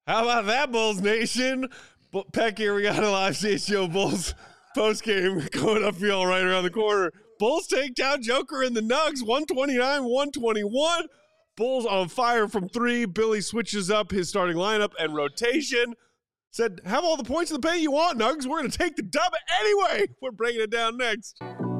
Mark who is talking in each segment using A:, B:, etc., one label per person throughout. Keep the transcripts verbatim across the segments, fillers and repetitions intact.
A: How about that, Bulls Nation? Bu- Peck here, we got a live C H G O Bulls post-game going upfield right around the corner. Bulls take down Joker and the Nugs, one twenty-nine one twenty-one. Bulls on fire from three. Billy switches up his starting lineup and rotation. Said, have all the points in the paint you want, Nugs. We're going to take the dub anyway. We're breaking it down next.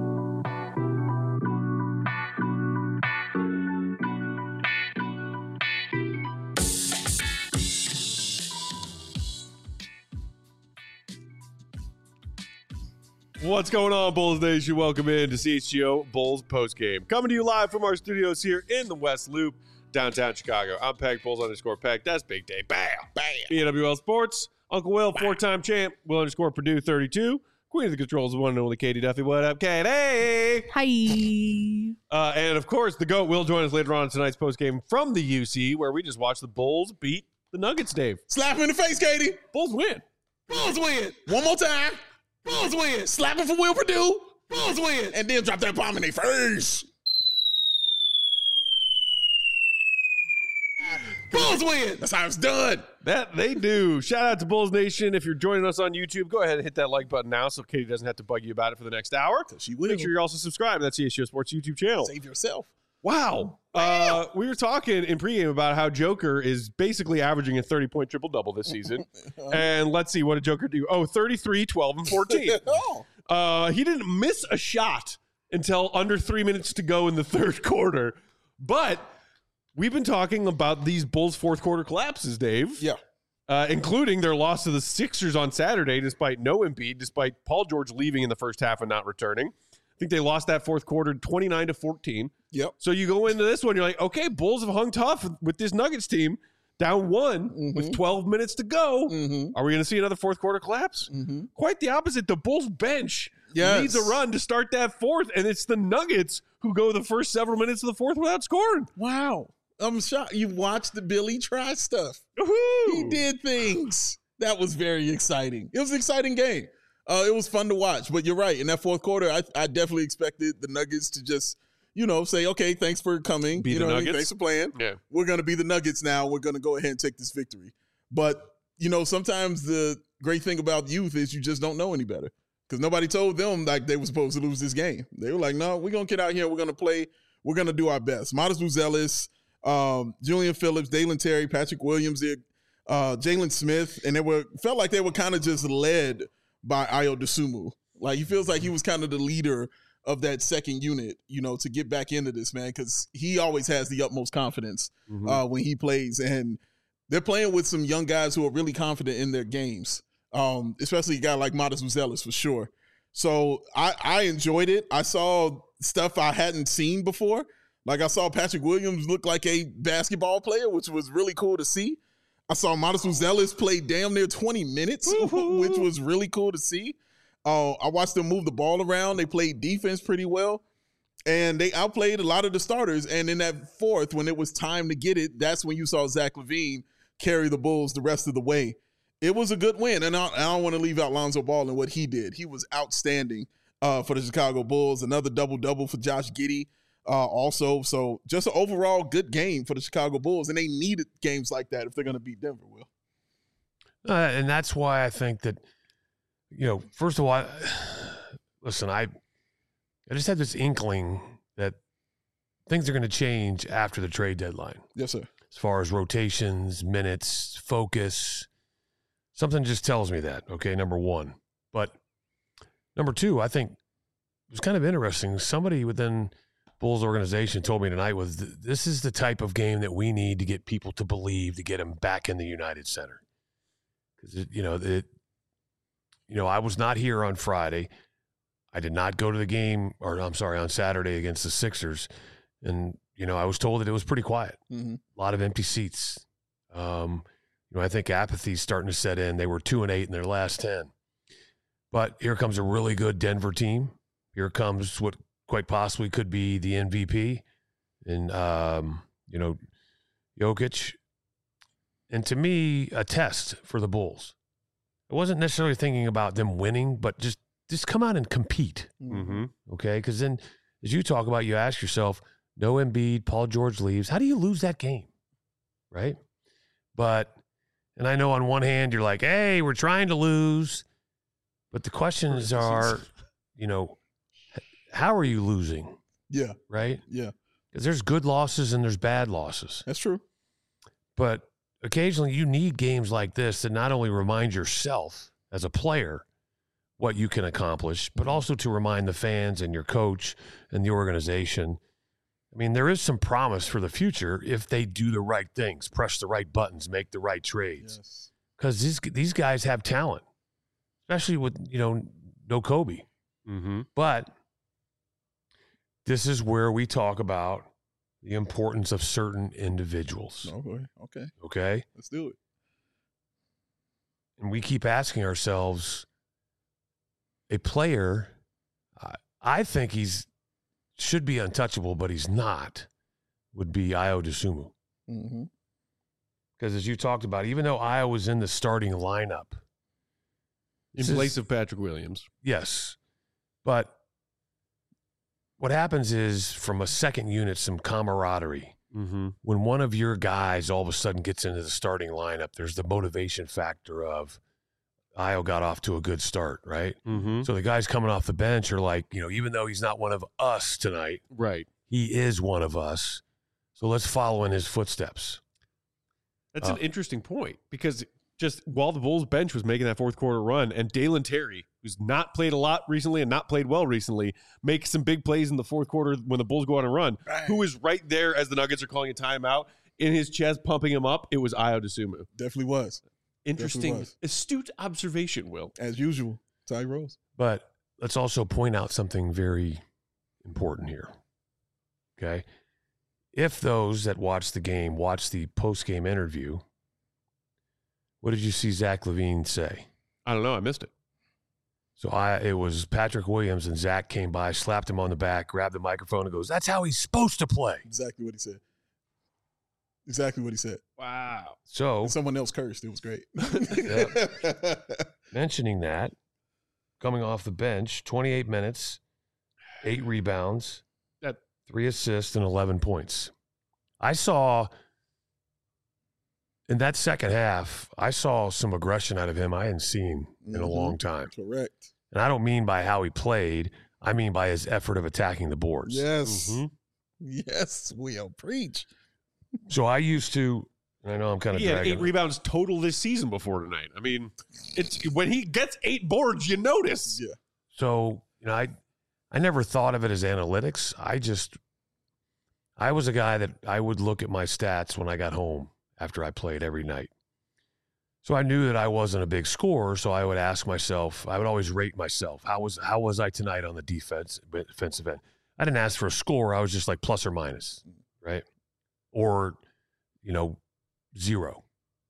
A: What's going on, Bulls Nation? Welcome in to C H G O Bulls postgame. Coming to you live from our studios here in the West Loop, downtown Chicago. I'm Peck, Bulls underscore Peck. That's Big Day. Bam! Bam! B N W L Sports. Uncle Will, Bam. Four-time champ. Will underscore Purdue, thirty-two. Queen of the controls, the one and only Katie Duffy. What up, Katie?
B: Hi.
A: Uh, and, of course, the GOAT will join us later on in tonight's postgame from the U C, where we just watched the Bulls beat the Nuggets, Dave.
C: Slap him in the face, Katie.
A: Bulls win.
C: Bulls win. One more time. Bulls win. Slap him for Will Purdue. Bulls win. And then drop that bomb in their face. Bulls win. That's how it's done.
A: That they do. Shout out to Bulls Nation. If you're joining us on YouTube, go ahead and hit that like button now so Katie doesn't have to bug you about it for the next hour.
C: She will.
A: Make sure you're also subscribed to that C H G O Sports YouTube channel.
C: Save yourself.
A: Wow. Uh, we were talking in pregame about how Joker is basically averaging a thirty-point triple-double this season. And let's see, what did Joker do? Oh, thirty-three, twelve, and fourteen.
C: oh.
A: uh, he didn't miss a shot until under three minutes to go in the third quarter. But we've been talking about these Bulls fourth-quarter collapses, Dave.
C: Yeah.
A: Uh, including their loss to the Sixers on Saturday despite no Embiid, despite Paul George leaving in the first half and not returning. I think they lost that fourth quarter twenty-nine to fourteen.
C: Yep.
A: So you go into this one, you're like, okay, Bulls have hung tough with this Nuggets team, down one mm-hmm. with twelve minutes to go. Mm-hmm. Are we going to see another fourth quarter collapse? Mm-hmm. Quite the opposite. The Bulls bench yes. leads a run to start that fourth, and it's the Nuggets who go the first several minutes of the fourth without scoring.
C: Wow. I'm shocked. You watched the Billy try stuff.
A: Woo-hoo.
C: He did things. That was very exciting. It was an exciting game. Uh, it was fun to watch, but you're right. In that fourth quarter, I, I definitely expected the Nuggets to just, you know, say, okay, thanks for coming.
A: Be
C: you
A: the
C: know,
A: Nuggets.
C: Thanks for playing.
A: Yeah.
C: We're going to be the Nuggets now. We're going to go ahead and take this victory. But, you know, sometimes the great thing about youth is you just don't know any better because nobody told them like they were supposed to lose this game. They were like, no, we're going to get out here. We're going to play. We're going to do our best. Modest Buzelis, um, Julian Phillips, Dalen Terry, Patrick Williams, uh, Jalen Smith, and they were felt like they were kind of just led by Ayo Dosunmu. Like, he feels like he was kind of the leader of that second unit, you know, to get back into this, man, because he always has the utmost confidence mm-hmm. uh, when he plays. And they're playing with some young guys who are really confident in their games, um, especially a guy like Modest Buzelis for sure. So I, I enjoyed it. I saw stuff I hadn't seen before. Like, I saw Patrick Williams look like a basketball player, which was really cool to see. I saw Modest Buzelis play damn near twenty minutes, which was really cool to see. Uh, I watched them move the ball around. They played defense pretty well, and they outplayed a lot of the starters. And in that fourth, when it was time to get it, that's when you saw Zach LaVine carry the Bulls the rest of the way. It was a good win, and I, I don't want to leave out Lonzo Ball and what he did. He was outstanding uh, for the Chicago Bulls. Another double-double for Josh Giddey uh, also. So just an overall good game for the Chicago Bulls, and they needed games like that if they're going to beat Denver, Will.
D: Uh, and that's why I think that, you know, first of all, I, listen, I I just had this inkling that things are going to change after the trade deadline.
C: Yes, sir.
D: As far as rotations, minutes, focus, something just tells me that, okay, number one. But number two, I think it was kind of interesting. Somebody within Bulls organization told me tonight was this is the type of game that we need to get people to believe to get them back in the United Center. Because, you know, it, You know, I was not here on Friday. I did not go to the game, or I'm sorry, on Saturday against the Sixers. And, you know, I was told that it was pretty quiet. Mm-hmm. A lot of empty seats. Um, you know, I think apathy's starting to set in. They were two and eight in their last ten. But here comes a really good Denver team. Here comes what quite possibly could be the M V P and, um, you know, Jokic. And to me, a test for the Bulls. I wasn't necessarily thinking about them winning, but just, just come out and compete,
A: mm-hmm.
D: okay? Because then, as you talk about, you ask yourself, no Embiid, Paul George leaves. How do you lose that game, right? But And I know on one hand you're like, hey, we're trying to lose. But the questions are, you know, how are you losing?
C: Yeah.
D: Right?
C: Yeah.
D: Because there's good losses and there's bad losses.
C: That's true.
D: But occasionally you need games like this that not only remind yourself as a player what you can accomplish, but also to remind the fans and your coach and the organization. I mean, there is some promise for the future if they do the right things, press the right buttons, make the right trades. Because yes. these, these guys have talent, especially with, you know, no Kobe.
A: Mm-hmm.
D: But this is where we talk about the importance of certain individuals.
C: Okay. Okay.
D: Okay?
C: Let's do it.
D: And we keep asking ourselves, a player, I, I think he's should be untouchable, but he's not, would be Ayo Dosunmu.
C: Mm-hmm.
D: Because as you talked about, even though Ayo was in the starting lineup.
A: In place is, of Patrick Williams.
D: Yes. But what happens is, from a second unit, some camaraderie.
A: Mm-hmm.
D: When one of your guys all of a sudden gets into the starting lineup, there's the motivation factor of Ayo got off to a good start, right?
A: Mm-hmm.
D: So the guys coming off the bench are like, you know, even though he's not one of us tonight,
A: right?
D: He is one of us. So let's follow in his footsteps.
A: That's
D: uh,
A: an interesting point, because just while the Bulls bench was making that fourth quarter run, and Dalen Terry, who's not played a lot recently and not played well recently, makes some big plays in the fourth quarter when the Bulls go on a run,
C: Bang.
A: Who is right there as the Nuggets are calling a timeout, in his chest, pumping him up, it was Ayo Dosunmu.
C: Definitely was.
A: Interesting,
C: was.
A: astute observation, Will.
C: As usual, Ty Rose.
D: But let's also point out something very important here. Okay? If those that watched the game watched the post-game interview, what did you see Zach LaVine say?
A: I don't know. I missed it.
D: So I, it was Patrick Williams, and Zach came by, slapped him on the back, grabbed the microphone, and goes, "That's how he's supposed to play."
C: Exactly what he said. Exactly what he said.
A: Wow.
D: So
C: and someone else cursed. It was great.
D: Mentioning that, coming off the bench, twenty-eight minutes, eight rebounds,
A: that
D: three assists, and eleven points. I saw in that second half, I saw some aggression out of him I hadn't seen in
C: mm-hmm.
D: a long time.
C: Correct.
D: And I don't mean by how he played. I mean by his effort of attacking the boards.
C: Yes.
A: Mm-hmm.
C: Yes, Will. Preach.
D: So I used to, and I know I'm kind of
A: he had
D: dragging
A: eight rebounds total this season before tonight. I mean, it's when he gets eight boards, you notice.
C: Yeah.
D: So, you know, I I never thought of it as analytics. I just, I was a guy that I would look at my stats when I got home after I played every night. So I knew that I wasn't a big scorer, so I would ask myself, I would always rate myself. How was how was I tonight on the defense defensive end? I didn't ask for a score. I was just like plus or minus, right? Or, you know, zero.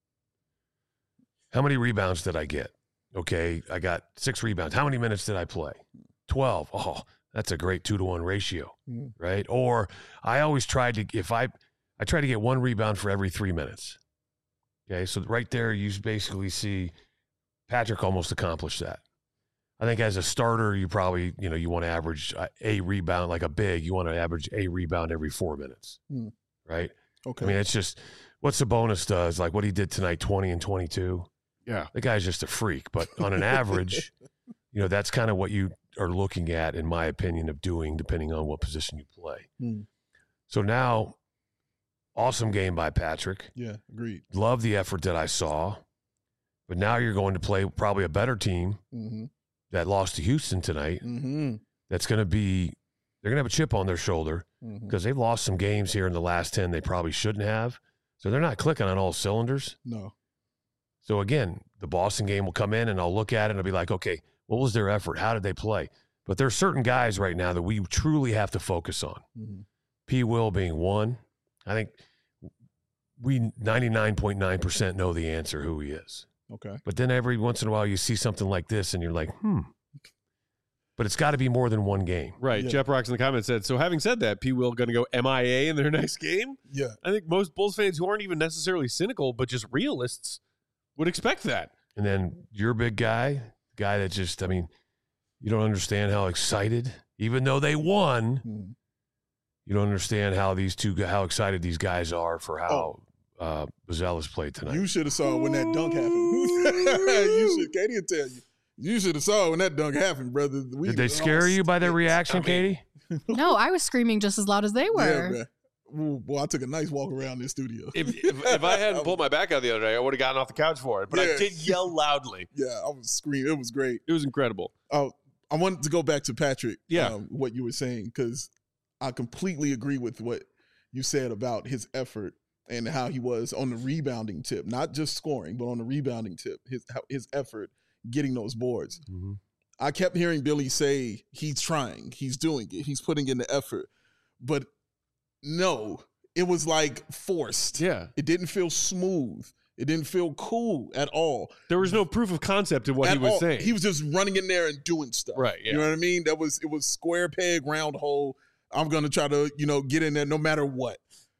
D: How many rebounds did I get? Okay, I got six rebounds. How many minutes did I play? twelve. Oh, that's a great two to one ratio,
C: mm-hmm.
D: right? Or I always tried to, if I, I try to get one rebound for every three minutes. Okay, so right there you basically see Patrick almost accomplished that. I think as a starter, you probably, you know, you want to average a rebound, like a big, you want to average a rebound every four minutes,
C: mm.
D: right?
C: Okay.
D: I mean, it's just what Sabonis does, like what he did tonight, twenty and twenty-two.
A: Yeah.
D: The guy's just a freak. But on an average, you know, that's kind of what you are looking at, in my opinion, of doing, depending on what position you play.
C: Mm.
D: So now, awesome game by Patrick.
C: Yeah, agreed.
D: Love the effort that I saw. But now you're going to play probably a better team
C: mm-hmm.
D: that lost to Houston tonight.
C: Mm-hmm.
D: That's going to be, they're going to have a chip on their shoulder because
C: mm-hmm.
D: they've lost some games here in the last ten they probably shouldn't have. So they're not clicking on all cylinders.
C: No.
D: So again, the Boston game will come in and I'll look at it and I'll be like, okay, what was their effort? How did they play? But there are certain guys right now that we truly have to focus on.
C: Mm-hmm.
D: P. Will being one. I think we ninety-nine point nine percent know the answer who he is.
C: Okay.
D: But then every once in a while you see something like this and you're like, hmm. But it's got to be more than one game.
A: Right.
C: Yeah.
A: Jeff Rocks in the comments said, so having said that, P. Will going to go M I A in their next game?
C: Yeah.
A: I think most Bulls fans who aren't even necessarily cynical, but just realists, would expect that.
D: And then your big guy, guy that just, I mean, you don't understand how excited, even though they won,
C: mm-hmm.
D: you don't understand how these two, how excited these guys are for how uh, Buzella's played tonight.
C: You should have saw when that dunk happened. you should, Katie will tell you. You should have saw when that dunk happened, brother. We
D: Did they scare you by their reaction,
A: I mean,
D: Katie?
B: No, I was screaming just as loud as they
C: Yeah,
B: were.
C: man. Ooh, boy, I took a nice walk around this studio.
A: If, if, if I hadn't pulled my back out the other day, I would have gotten off the couch for it. But I
C: Yeah.
A: did yell loudly.
C: Yeah, I was screaming. It was great.
A: It was incredible.
C: Oh, I wanted to go back to Patrick.
A: Yeah.
C: um, what you were saying, because I completely agree with what you said about his effort and how he was on the rebounding tip, not just scoring, but on the rebounding tip. His how- his effort getting those boards.
D: Mm-hmm.
C: I kept hearing Billy say he's trying, he's doing it, he's putting in the effort, but no, it was like forced.
A: Yeah.
C: It didn't feel smooth. It didn't feel cool at all.
A: There was no proof of concept in what
C: At
A: he was
C: all.
A: saying.
C: He was just running in there and doing stuff.
A: Right, yeah.
C: You know what I mean? That was it was square peg, round hole. I'm gonna try to, you know, get in there no matter what.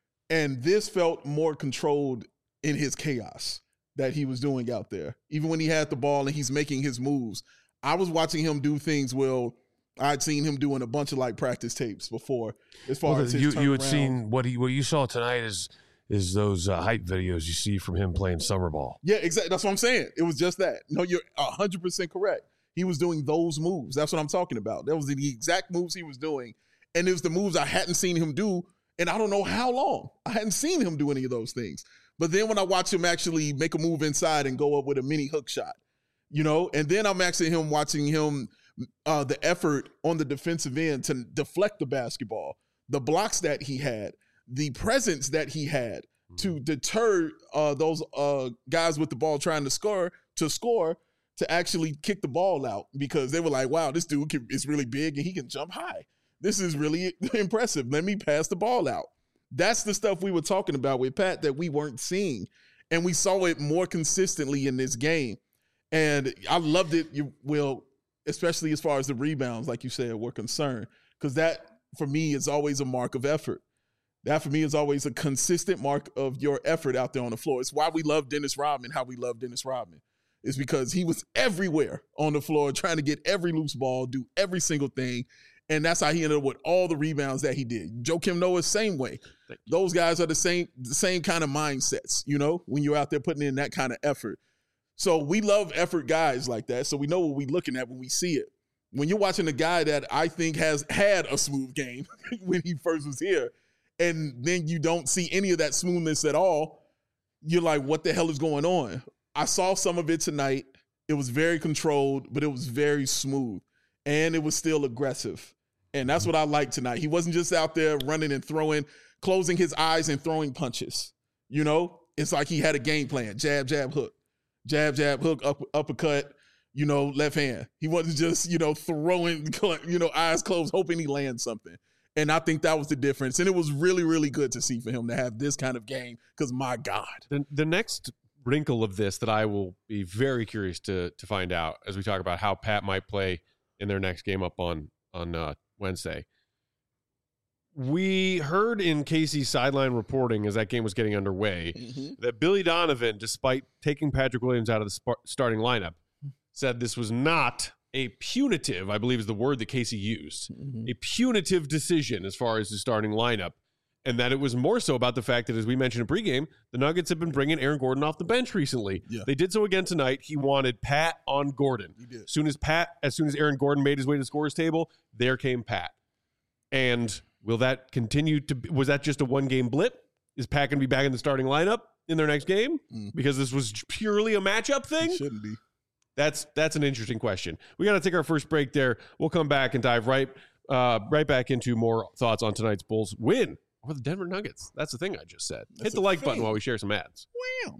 C: And this felt more controlled in his chaos that he was doing out there. Even when he had the ball and he's making his moves. I was watching him do things well. I'd seen him doing a bunch of like practice tapes before as far
D: Well,
C: as his
D: you you had
C: turnaround.
D: seen what he what you saw tonight is is those uh, hype videos you see from him playing summer ball.
C: Yeah, exactly. That's what I'm saying. It was just that. No, you're one hundred percent correct. He was doing those moves. That's what I'm talking about. That was the exact moves he was doing. And it was the moves I hadn't seen him do in I don't know how long. I hadn't seen him do any of those things. But then when I watch him actually make a move inside and go up with a mini hook shot, you know, and then I'm actually him watching him, uh, the effort on the defensive end to deflect the basketball, the blocks that he had, the presence that he had to deter uh, those uh, guys with the ball trying to score, to score, to actually kick the ball out because they were like, wow, this dude can, is really big and he can jump high. This is really impressive. Let me pass the ball out. That's the stuff we were talking about with Pat that we weren't seeing. And we saw it more consistently in this game. And I loved it, you will, especially as far as the rebounds, like you said, were concerned. Because that, for me, is always a mark of effort. That, for me, is always a consistent mark of your effort out there on the floor. It's why we love Dennis Rodman, how we love Dennis Rodman. It's because he was everywhere on the floor trying to get every loose ball, do every single thing. And that's how he ended up with all the rebounds that he did. Joakim Noah, same way. Those guys are the same, the same kind of mindsets, you know, when you're out there putting in that kind of effort. So we love effort guys like that. So we know what we're looking at when we see it. When you're watching a guy that I think has had a smooth game when he first was here, and then you don't see any of that smoothness at all, you're like, what the hell is going on? I saw some of it tonight. It was very controlled, but it was very smooth. And it was still aggressive. And that's what I liked tonight. He wasn't just out there running and throwing, closing his eyes and throwing punches. You know, it's like he had a game plan. Jab, jab, hook. Jab, jab, hook, up, uppercut, you know, left hand. He wasn't just, you know, throwing, you know, eyes closed, hoping he lands something. And I think that was the difference. And it was really, really good to see for him to have this kind of game because, my God.
A: The, the next wrinkle of this that I will be very curious to to find out as we talk about how Pat might play in their next game up on, on uh, Wednesday. We heard in Casey's sideline reporting as that game was getting underway
C: Mm-hmm.
A: that Billy Donovan, despite taking Patrick Williams out of the sp- starting lineup, said this was not a punitive, I believe is the word that Casey used,
C: Mm-hmm.
A: a punitive decision as far as the starting lineup, and that it was more so about the fact that, as we mentioned in pregame, the Nuggets have been bringing Aaron Gordon off the bench recently.
C: Yeah.
A: They did so again tonight. He wanted Pat on Gordon.
C: He did.
A: As soon as Pat, as soon as Aaron Gordon made his way to the scorer's table, there came Pat. And will that continue to be, was that just a one-game blip? Is Pat going to be back in the starting lineup in their next game?
C: Mm.
A: Because this was purely a matchup thing?
C: He shouldn't be.
A: That's that's an interesting question. We got to take our first break there. We'll come back and dive right uh, right back into more thoughts on tonight's Bulls win over the Denver Nuggets. That's the thing I just said.
C: That's
A: Hit the
C: a
A: like
C: thing.
A: button while we share some ads.
C: Wow.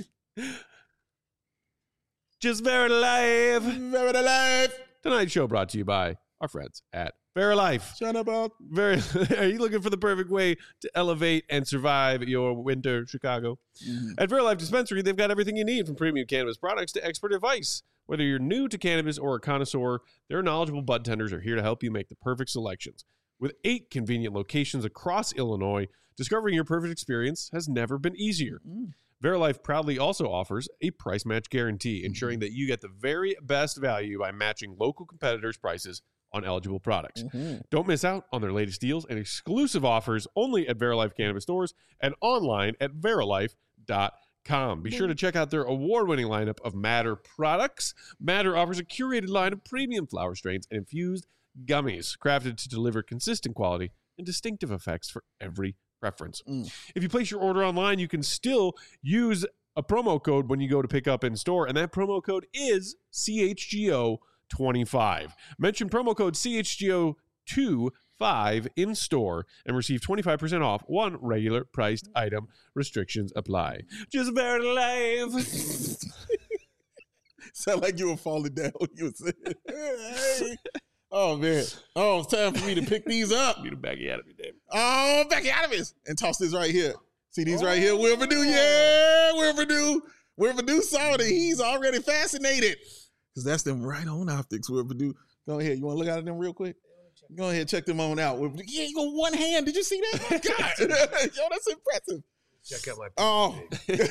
A: Just very live.
C: Very alive.
A: Tonight's show brought to you by our friends at Verilife.
C: Shut up, about.
A: Very. Are you looking for the perfect way to elevate and survive your winter, Chicago?
C: Mm-hmm.
A: At Verilife Dispensary, they've got everything you need from premium cannabis products to expert advice. Whether you're new to cannabis or a connoisseur, their knowledgeable bud tenders are here to help you make the perfect selections. With eight convenient locations across Illinois, discovering your perfect experience has never been easier.
C: Mm.
A: Verilife proudly also offers a price match guarantee, ensuring that you get the very best value by matching local competitors' prices on eligible products.
C: Mhm.
A: Don't miss out on their latest deals and exclusive offers only at Verilife Cannabis stores and online at verilife dot com. Be sure to check out their award-winning lineup of Matter products. Matter offers a curated line of premium flower strains and infused gummies crafted to deliver consistent quality and distinctive effects for every preference.
C: Mm.
A: If you place your order online, you can still use a promo code when you go to pick up in store, and that promo code is C H G O twenty-five. Mention promo code C H G O twenty-five in store and receive twenty-five percent off one regular priced item. Restrictions apply. Just Verilife.
C: Sound like you were falling down when you were saying, hey. Oh, man. Oh, it's time for me to pick these up.
A: Need a baggy out of me, Dave.
C: Oh, Becky Adams. And toss this right here. See these right here? Will Purdue. Yeah, Will Purdue. Will Purdue saw it. He's already fascinated. Because that's them right on optics, Will Purdue. Go ahead. You want to look at them real quick? Go ahead. Check them on out. Yeah, you got one hand. Did you see that? Oh, God. Yo, that's impressive.
D: Check out my
C: Oh.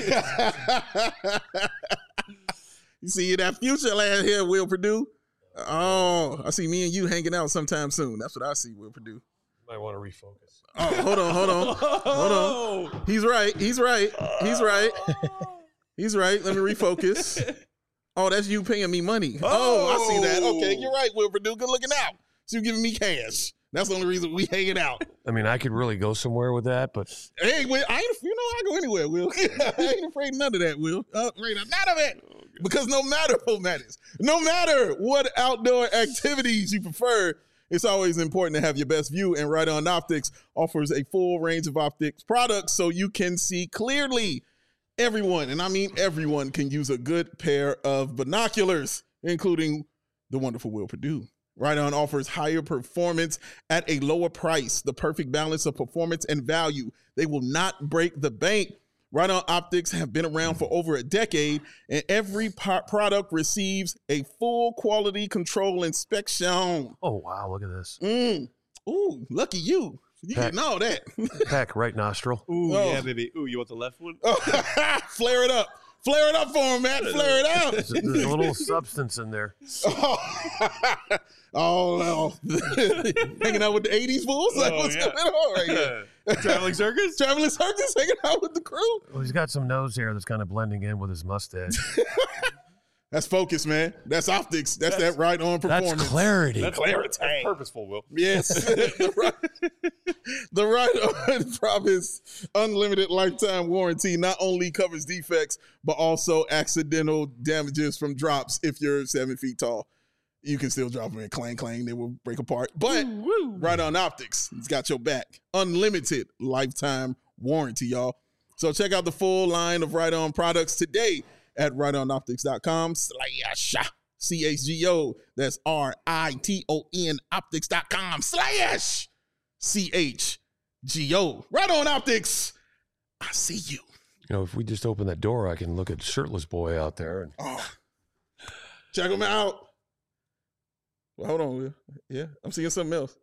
C: You see that future land here, Will Purdue? Oh, I see me and you hanging out sometime soon. That's what I see, Will Purdue.
D: Might want to refocus.
C: Oh, hold on, hold on, hold on. He's right. He's right. He's right. He's right. Let me refocus. Oh, that's you paying me money. Oh, I see that. Okay, you're right, Will Purdue. Good looking out. So you giving me cash. That's the only reason we hanging out.
D: I mean, I could really go somewhere with that, but
C: Hey, Will, I ain't, you know, I go anywhere, Will. I ain't afraid of none of that, Will. Uh, afraid of none of it. Because no matter what matters, no matter what outdoor activities you prefer, it's always important to have your best view. And Right On Optics offers a full range of optics products so you can see clearly. Everyone, and I mean everyone, can use a good pair of binoculars, including the wonderful Will Purdue. Right On offers higher performance at a lower price, the perfect balance of performance and value. They will not break the bank. Right On Optics have been around for over a decade, and every po- product receives a full quality control inspection.
D: oh wow, look at this.
C: Mm. Ooh, lucky you. You
D: Pat-
C: getting all that.
D: Pack right nostril.
A: Ooh,
C: Oh.
A: yeah, baby. Ooh, you want the left one?
C: Oh, flare it up. Flare it up for him, Matt. Flare it up.
D: There's, there's a little substance in there.
C: Oh, no. Hanging out with the eighties fools? Like,
A: Oh,
C: what's
A: yeah.
C: going on right here?
A: Traveling circus?
C: Traveling circus hanging out with the crew?
D: Well, he's got some nose hair that's kind of blending in with his mustache.
C: That's focus, man. That's optics. That's,
A: That's-
C: that right on performance.
D: That's clarity.
A: That's,
C: Clarity.
A: that's purposeful, Will.
C: Yes. the, right, the right on promise unlimited lifetime warranty not only covers defects, but also accidental damages from drops if you're seven feet tall. You can still drop them and clang, clang. They will break apart. But Right On Optics, it's got your back. Unlimited lifetime warranty, y'all. So check out the full line of Right On products today at right on optics dot com slash C H G O. That's R I T O N optics dot com slash C H G O. Right On Optics. I see you.
D: You know, if we just open that door, I can look at shirtless boy out there. And
C: Oh, check them out. Well, hold on, Will. Yeah, I'm seeing something else.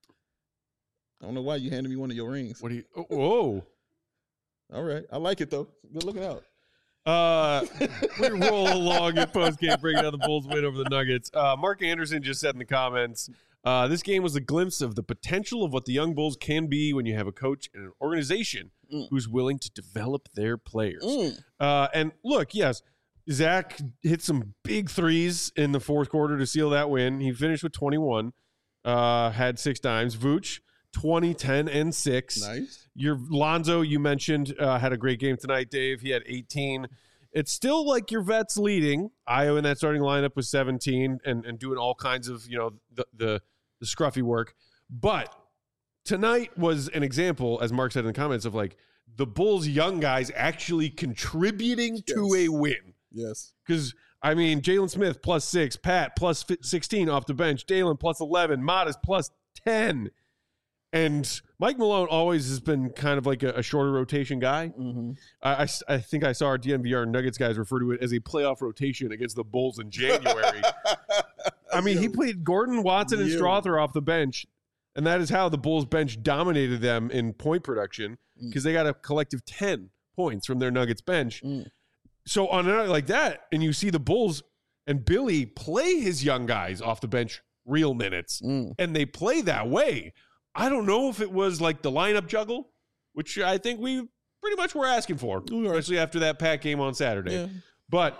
C: I don't know why you handed me one of your rings.
A: What do you? Oh, whoa.
C: All right. I like it, though. Good looking out.
A: Uh, we roll along in post-game, breaking down the Bulls' win over the Nuggets. Uh, Mark Anderson just said in the comments, uh, this game was a glimpse of the potential of what the young Bulls can be when you have a coach and an organization
C: Mm.
A: who's willing to develop their players.
C: Mm.
A: Uh, and look, yes, Zach hit some big threes in the fourth quarter to seal that win. He finished with twenty-one, uh, had six dimes. Vooch, twenty, ten, and six.
C: Nice.
A: Your Lonzo, you mentioned, uh, had a great game tonight, Dave. He had eighteen. It's still like your vets leading. Io in that starting lineup was seventeen and, and doing all kinds of, you know, the, the the scruffy work. But tonight was an example, as Mark said in the comments, of like the Bulls' young guys actually contributing to
C: Yes.
A: a win.
C: Yes.
A: Because, I mean, Jalen Smith plus six, Pat plus sixteen off the bench, Dalen plus eleven, Modest plus ten. And Mike Malone always has been kind of like a, a shorter rotation guy.
C: Mm-hmm.
A: I, I, I think I saw our D N V R Nuggets guys refer to it as a playoff rotation against the Bulls in January. I mean, he played Gordon, Watson, and
C: Yeah.
A: Strother off the bench, and that is how the Bulls bench dominated them in point production because they got a collective ten points from their Nuggets bench.
C: Mm.
A: So on a night like that, and you see the Bulls and Billy play his young guys off the bench real minutes,
C: Mm.
A: and they play that way. I don't know if it was like the lineup juggle, which I think we pretty much were asking for, especially after that Pack game on Saturday.
C: Yeah.
A: But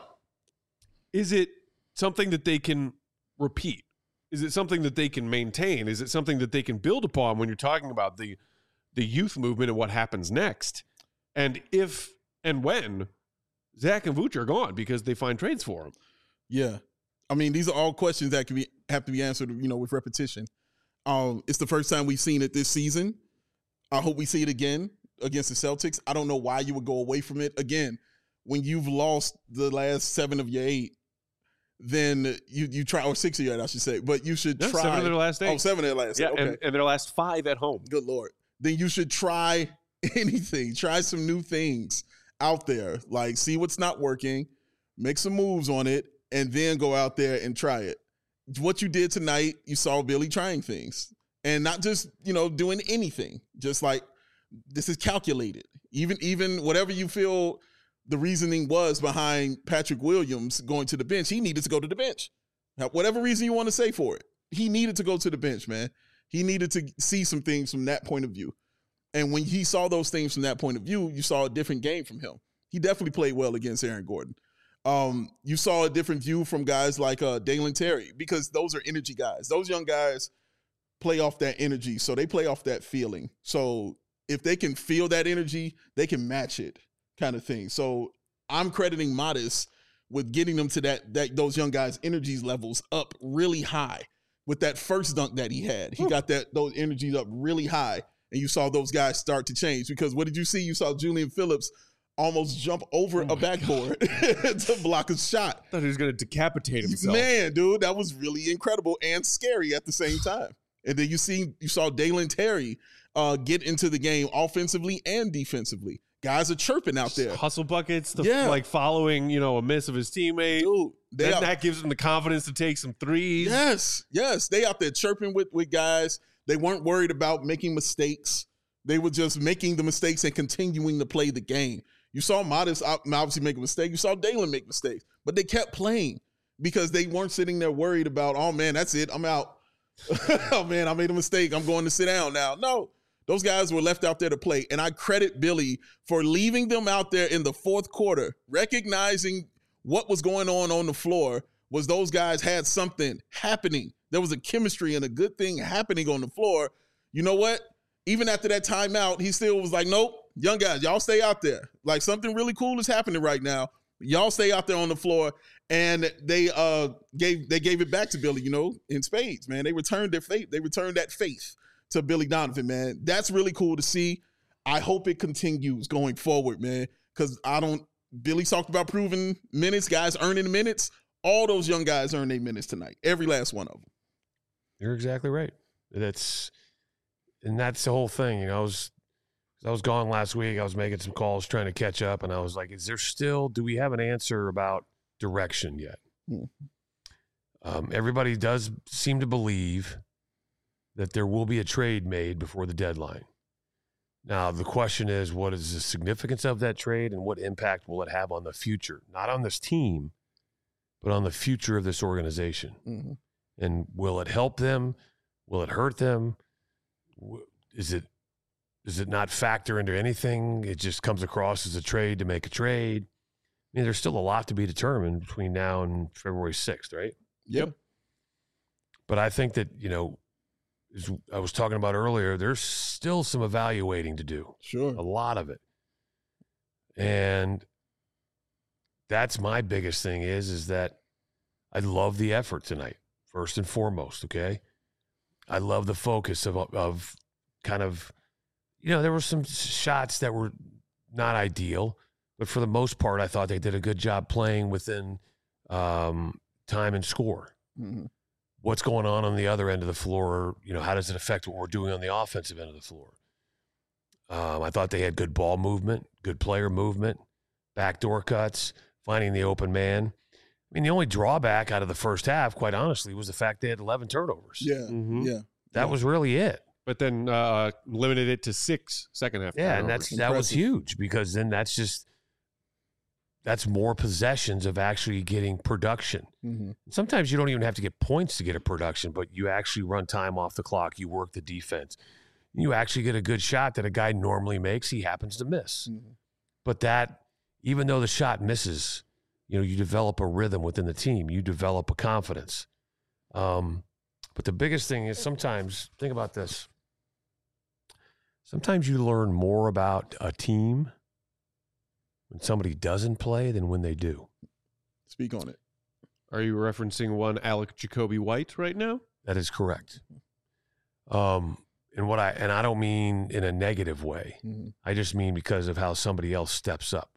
A: is it something that they can repeat? Is it something that they can maintain? Is it something that they can build upon when you're talking about the the youth movement and what happens next? And if and when Zach and Vooch are gone because they find trades for him.
C: Yeah. I mean, these are all questions that can be have to be answered, you know, with repetition. Um, it's the first time we've seen it this season. I hope we see it again against the Celtics. I don't know why you would go away from it. Again, when you've lost the last seven of your eight, then you you try, or six of your eight, I should say, but you should
A: Yeah,
C: try.
A: seven of their last eight.
C: Oh, seven of their last
A: Yeah,
C: eight. Okay.
A: and, and their last five at home.
C: Good Lord. Then you should try anything. Try some new things out there. Like, see what's not working, make some moves on it, and then go out there and try it. What you did tonight, you saw Billy trying things. And not just, you know, doing anything. Just like, this is calculated. Even, even whatever you feel the reasoning was behind Patrick Williams going to the bench, he needed to go to the bench. Now, whatever reason you want to say for it, he needed to go to the bench, man. He needed to see some things from that point of view. And when he saw those things from that point of view, you saw a different game from him. He definitely played well against Aaron Gordon. Um, you saw a different view from guys like uh, Dalen Terry, because those are energy guys. Those young guys play off that energy, so they play off that feeling. So if they can feel that energy, they can match it, kind of thing. So I'm crediting Modest with getting them to that, that those young guys' energy levels up really high. With that first dunk that he had, he got that those energies up really high, and you saw those guys start to change. Because what did you see? You saw Julian Phillips almost jump over
A: Oh
C: a backboard to block a shot.
A: I thought he was going to decapitate himself.
C: Man, dude, that was really incredible and scary at the same time. And then you see, you saw Dalen Terry uh, get into the game offensively and defensively. Guys are chirping out there.
A: Hustle buckets, the,
C: Yeah.
A: like following, you know, a miss of his teammate.
C: Dude, they
A: Then
C: out,
A: that gives him the confidence to take some threes.
C: yes, yes. They out there chirping with, with guys. They weren't worried about making mistakes. They were just making the mistakes and continuing to play the game. You saw Modest obviously make a mistake. You saw Dalen make mistakes. But they kept playing because they weren't sitting there worried about, oh, man, that's it. I'm out. Oh, man, I made a mistake. I'm going to sit down now. No, those guys were left out there to play. And I credit Billy for leaving them out there in the fourth quarter, recognizing what was going on on the floor was those guys had something happening. There was a chemistry and a good thing happening on the floor. You know what? Even after that timeout, he still was like, nope, young guys, y'all stay out there. Like, something really cool is happening right now. Y'all stay out there on the floor. And they uh gave they gave it back to Billy, you know, in spades, man. They returned their faith. They returned that faith to Billy Donovan, man. That's really cool to see. I hope it continues going forward, man, because I don't – Billy talked about proving minutes, guys earning minutes. All those young guys earned their minutes tonight, every last one of them.
D: You're exactly right. That's and that's the whole thing. You know, I was I was gone last week. I was making some calls trying to catch up, and I was like, "Is there still? Do we have an answer about direction yet?"
C: Hmm.
D: Um, everybody does seem to believe that there will be a trade made before the deadline. Now, the question is, what is the significance of that trade, and what impact will it have on the future? Not on this team, but on the future of this organization.
C: Mm-hmm.
D: And will it help them? Will it hurt them? Is it does it not factor into anything? It just comes across as a trade to make a trade. I mean, there's still a lot to be determined between now and February sixth, right?
C: Yep.
D: But I think that, you know, as I was talking about earlier, there's still some evaluating to do,
C: Sure.
D: a lot of it. And that's my biggest thing is, is that I love the effort tonight. First and foremost, okay? I love the focus of of kind of, you know, there were some shots that were not ideal, but for the most part, I thought they did a good job playing within um, time and score.
C: Mm-hmm.
D: What's going on on the other end of the floor? You know, how does it affect what we're doing on the offensive end of the floor? Um, I thought they had good ball movement, good player movement, backdoor cuts, finding the open man. I mean, the only drawback out of the first half, quite honestly, was the fact they had eleven turnovers.
C: Yeah.
A: Mhm.
C: Yeah.
D: That
C: yeah.
D: was really it.
A: But then uh, limited it to six second half.
D: Yeah, and
A: turnovers.
D: that's that was
C: Impressive.
D: huge because then that's just that's more possessions of actually getting production.
C: Mm-hmm.
D: Sometimes you don't even have to get points to get a production, but you actually run time off the clock. You work the defense. You actually get a good shot that a guy normally makes. He happens to miss.
C: Mm-hmm.
D: But that, even though the shot misses, you know, you develop a rhythm within the team. You develop a confidence. Um, but the biggest thing is sometimes, think about this. Sometimes you learn more about a team when somebody doesn't play than when they do.
C: Speak on it.
A: Are you referencing one Alec Jacoby White right now?
D: That is correct. Um, and what I and I don't mean in a negative way.
C: Mm-hmm.
D: I just mean because of how somebody else steps up.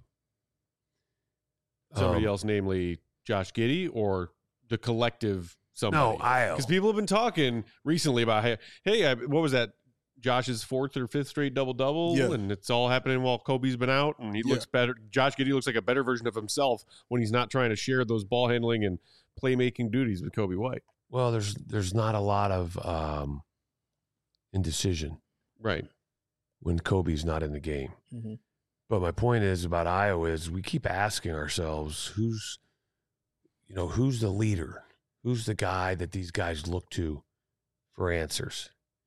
A: Somebody
D: Um,
A: else, namely Josh Giddey, or the collective somebody?
D: No, I.
A: Because people have been talking recently about, hey, hey, I- what was that? Josh's fourth or fifth straight double double,
C: Yeah.
A: and it's all happening while Kobe's been out, and he
C: Yeah.
A: looks better. Josh Giddey looks like a better version of himself when he's not trying to share those ball handling and playmaking duties with Kobe White.
D: Well, there's there's not a lot of um, indecision
A: Right.
D: when Kobe's not in the game.
C: Mm-hmm.
D: But my point is about Iowa is we keep asking ourselves who's, you know, who's the leader, who's the guy that these guys look to for answers.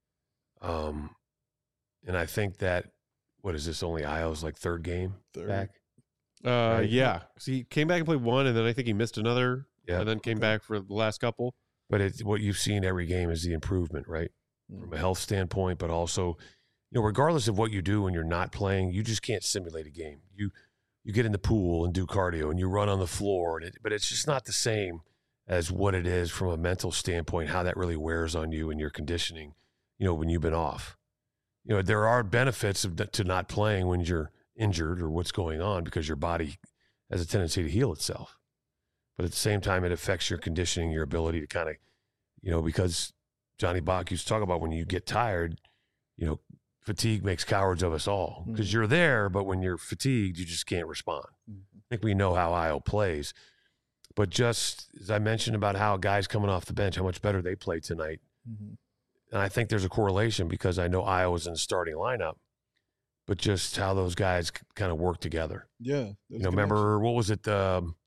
D: Um, and I think that what is this? Only Iowa's like third game
C: Third.
D: back.
A: Uh,
D: Right.
A: yeah. So he came back and played one, and then I think he missed another,
D: Yeah.
A: and then came
C: Okay.
A: back for the last couple.
D: But it's what you've seen every game is the improvement, right? From a health standpoint, but also, you know, regardless of what you do when you're not playing, you just can't simulate a game. You you get in the pool and do cardio and you run on the floor, and it, but it's just not the same as what it is from a mental standpoint, how that really wears on you and your conditioning, you know, when you've been off. You know, there are benefits of, to not playing when you're injured or what's going on because your body has a tendency to heal itself. But at the same time, it affects your conditioning, your ability to kind of, you know, because Johnny Bach used to talk about when you get tired, you know, fatigue makes cowards of us all because
C: Mm-hmm.
D: you're there, but when you're fatigued, you just can't respond.
C: Mm-hmm.
D: I think we know how Io plays. But just as I mentioned about how guys coming off the bench, how much better they played tonight.
C: Mm-hmm.
D: And I think there's a correlation because I know Iowa's in the starting lineup, but just how those guys kind of work together.
C: Yeah.
D: You know, remember, what was it? Um,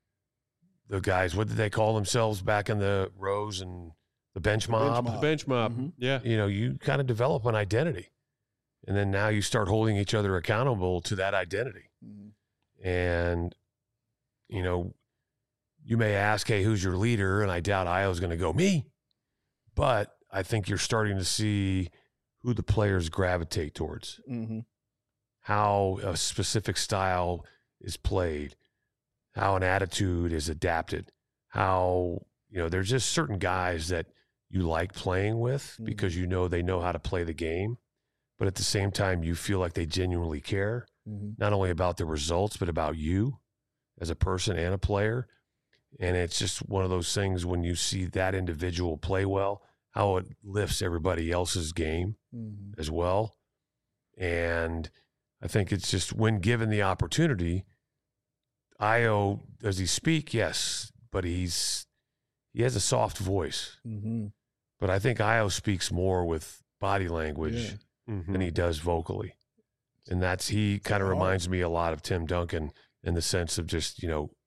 D: the guys, what did they call themselves back in the rows and the bench mob?
C: mob.
A: The bench mob.
C: Mhm.
A: Yeah.
D: You know, you kind of develop an identity. And then now you start holding each other accountable to that identity.
C: Mm-hmm.
D: And, you know, you may ask, hey, who's your leader? And I doubt Iowa's going to go, me. But I think you're starting to see who the players gravitate towards,
C: Mm-hmm.
D: how a specific style is played, how an attitude is adapted, how, you know, there's just certain guys that you like playing with
C: Mhm.
D: because you know they know how to play the game. But at the same time, you feel like they genuinely care,
C: Mm-hmm.
D: not only about the results, but about you as a person and a player. And it's just one of those things when you see that individual play well, how it lifts everybody else's game
C: Mm-hmm.
D: as well. And I think it's just when given the opportunity, Io, does he speak? Yes, but he's he has a soft voice.
C: Mm-hmm.
D: But I think Io speaks more with body language
C: Yeah.
A: Mhm.
D: than he does vocally. And that's, he kind of
C: hard.
D: reminds me a lot of Tim Duncan in the sense of just, you know,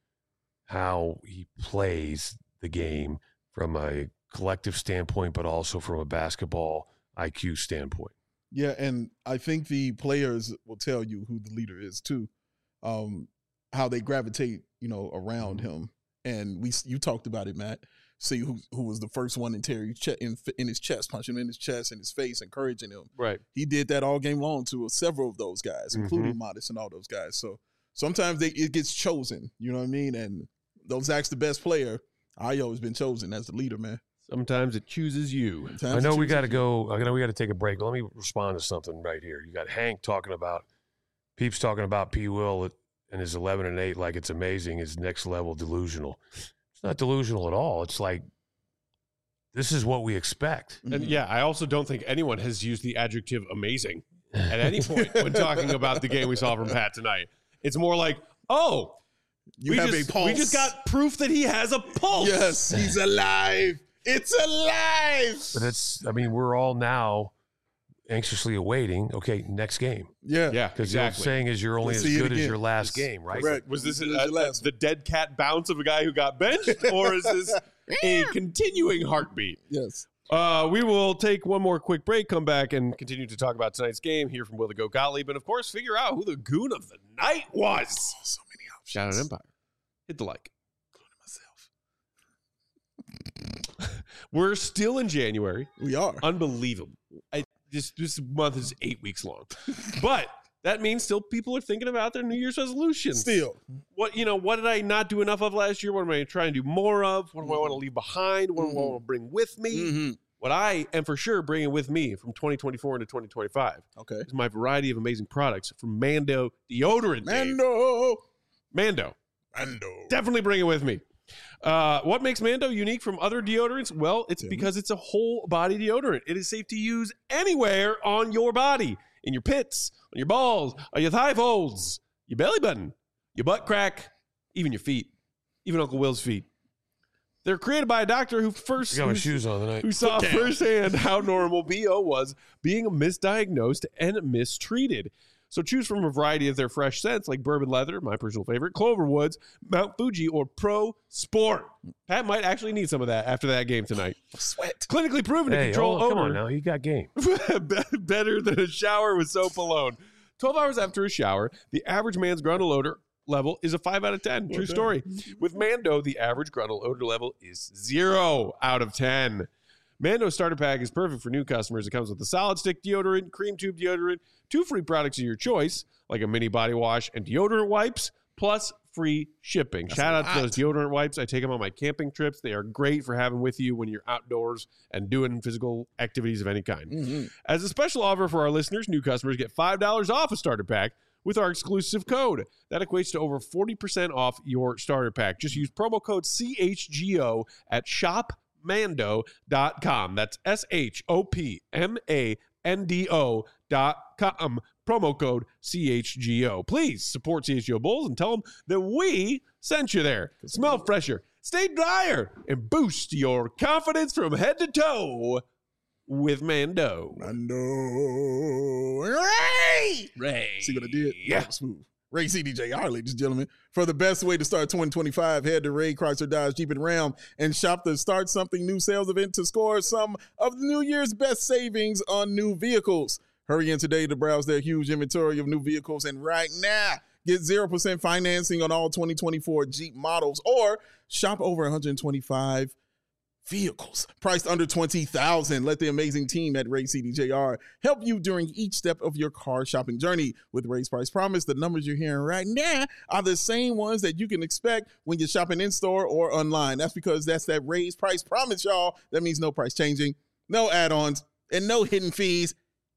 D: how he plays the game from a collective standpoint, but also from a basketball I Q standpoint.
C: Yeah, and I think the players will tell you who the leader is too, um, how they gravitate, you know, around
D: Mm-hmm.
C: him. And we, you talked about it, Matt. See who who was the first one in Terry's che- in, in his chest, punch him in his chest, in his face, encouraging him.
A: Right.
C: He did that all game long to several of those guys,
A: Mhm.
C: including Modest and all those guys. So sometimes they it gets chosen, you know what I mean? And those Zach's the best player. Io has been chosen as the leader, man.
A: Sometimes it chooses you.
C: Sometimes
D: I
C: it
D: know we
C: chooses
D: got to
C: you.
D: go. I know we got to take a break. But let me respond to something right here. You got Hank talking about, Peeps talking about P. Will and his eleven and eight like it's amazing. His next level delusional. It's not delusional at all. It's like, this is what we expect.
A: And
C: Mhm.
A: yeah, I also don't think anyone has used the adjective amazing at any point when talking about the game we saw from Pat tonight. It's more like, oh,
C: You
A: we,
C: have
A: just,
C: a pulse.
A: we just got proof that he has a pulse.
C: Yes, he's alive. It's alive.
D: But it's, I mean, we're all now anxiously awaiting, okay, next game.
C: Yeah.
A: Yeah,
D: Because
A: exactly.
D: you're saying is you're only
C: Let's
D: as
C: see it
D: good as
C: again.
D: your last
C: Yes.
D: game, right?
C: Correct.
A: Was this
C: This is
A: a,
C: your last
A: the dead cat bounce of a guy who got benched, or is this a continuing heartbeat?
C: Yes.
A: Uh, we will take one more quick break, come back, and continue to talk about tonight's game, hear from Will the Goat Gottlieb, and of course, figure out who the goon of the night was.
C: So many options.
A: Shout out Empire. Hit the like.
C: Myself.
A: We're still in January.
C: We are.
A: Unbelievable. I, this this month is eight weeks long, but that means still people are thinking about their New Year's resolutions.
C: Still.
A: What you know? What did I not do enough of last year? What am I trying to do more of? What do I want to leave behind? What do I want to bring with me?
C: Mm-hmm.
A: What I am for sure bringing with me from twenty twenty-four into twenty twenty-five
C: Okay.
A: is my variety of amazing products from Mando deodorant. Dave.
C: Mando.
A: Mando.
C: Mando.
A: Definitely bring it with me. Uh, what makes Mando unique from other deodorants? Well, it's
C: Tell me.
A: because it's a whole body deodorant. It is safe to use anywhere on your body, in your pits, on your balls, on your thigh folds, your belly button, your butt crack, even your feet, even Uncle Will's feet. They're created by a doctor who first
D: I got my
A: who's-
D: shoes on tonight.
A: who saw
C: Damn.
A: firsthand how normal B O was being misdiagnosed and mistreated. So choose from a variety of their fresh scents like bourbon leather, my personal favorite, Cloverwoods, Mount Fuji, or Pro Sport. Pat might actually need some of that after that game tonight.
C: Sweat.
A: Clinically proven to
D: Hey,
A: control
D: oh, come on
A: odor
D: now. You got game.
A: better than a shower with soap alone. twelve hours after a shower, the average man's grundle odor level is a five out of ten. True story. With Mando, the average grundle odor level is zero out of ten. Mando starter pack is perfect for new customers. It comes with a solid stick deodorant, cream tube deodorant, two free products of your choice, like a mini body wash and deodorant wipes, plus free shipping.
C: That's
A: Shout
C: a
A: out to
C: lot.
A: those deodorant wipes. I take them on my camping trips. They are great for having with you when you're outdoors and doing physical activities of any kind.
C: Mm-hmm.
A: As a special offer for our listeners, new customers get five dollars off a starter pack with our exclusive code. That equates to over forty percent off your starter pack. Just use promo code C H G O at shop mando dot com. That's S H O P M A N D O dot com. Promo code C H G O. Please support C H G O Bulls and tell them that we sent you there. Smell fresher, stay drier, and boost your confidence from head to toe with Mando.
C: Mando. Ray!
A: Ray.
C: See what I did?
A: Yeah.
C: That was smooth. Ray C D J R, ladies and gentlemen. For the best way to start twenty twenty-five, head to Ray Chrysler Dodge Jeep and Ram and shop the Start Something New sales event to score some of the New Year's best savings on new vehicles. Hurry in today to browse their huge inventory of new vehicles, and right now, get zero percent financing on all twenty twenty-four Jeep models or shop over one hundred twenty-five vehicles priced under twenty thousand. Let the amazing team at Ray C D J R help you during each step of your car shopping journey. With Ray's Price Promise, the numbers you're hearing right now are the same ones that you can expect when you're shopping in store or online. That's because that's that Ray's Price Promise, y'all. That means no price changing, no add-ons, and no hidden fees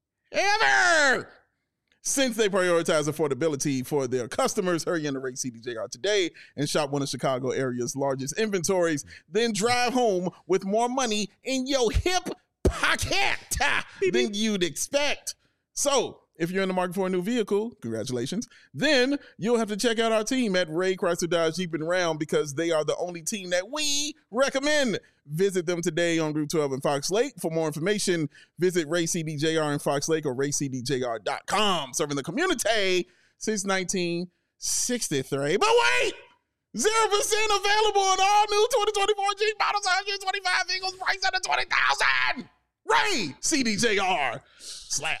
C: ever. Since they prioritize affordability for their customers, hurry into Ray C D J R today and shop one of Chicago area's largest inventories. Then drive home with more money in your hip pocket than you'd expect. So, if you're in the market for a new vehicle, congratulations, then you'll have to check out our team at Ray Chrysler Dodge Jeep and Ram because they are the only team that we recommend. Visit them today on Route twelve in Fox Lake. For more information, visit Ray C D J R in Fox Lake or ray c d j r dot com. Serving the community since nineteen sixty-three. But wait! zero percent available on all new twenty twenty-four Jeep models, one hundred twenty-five vehicles priced under twenty thousand. Ray C D J R. Slap.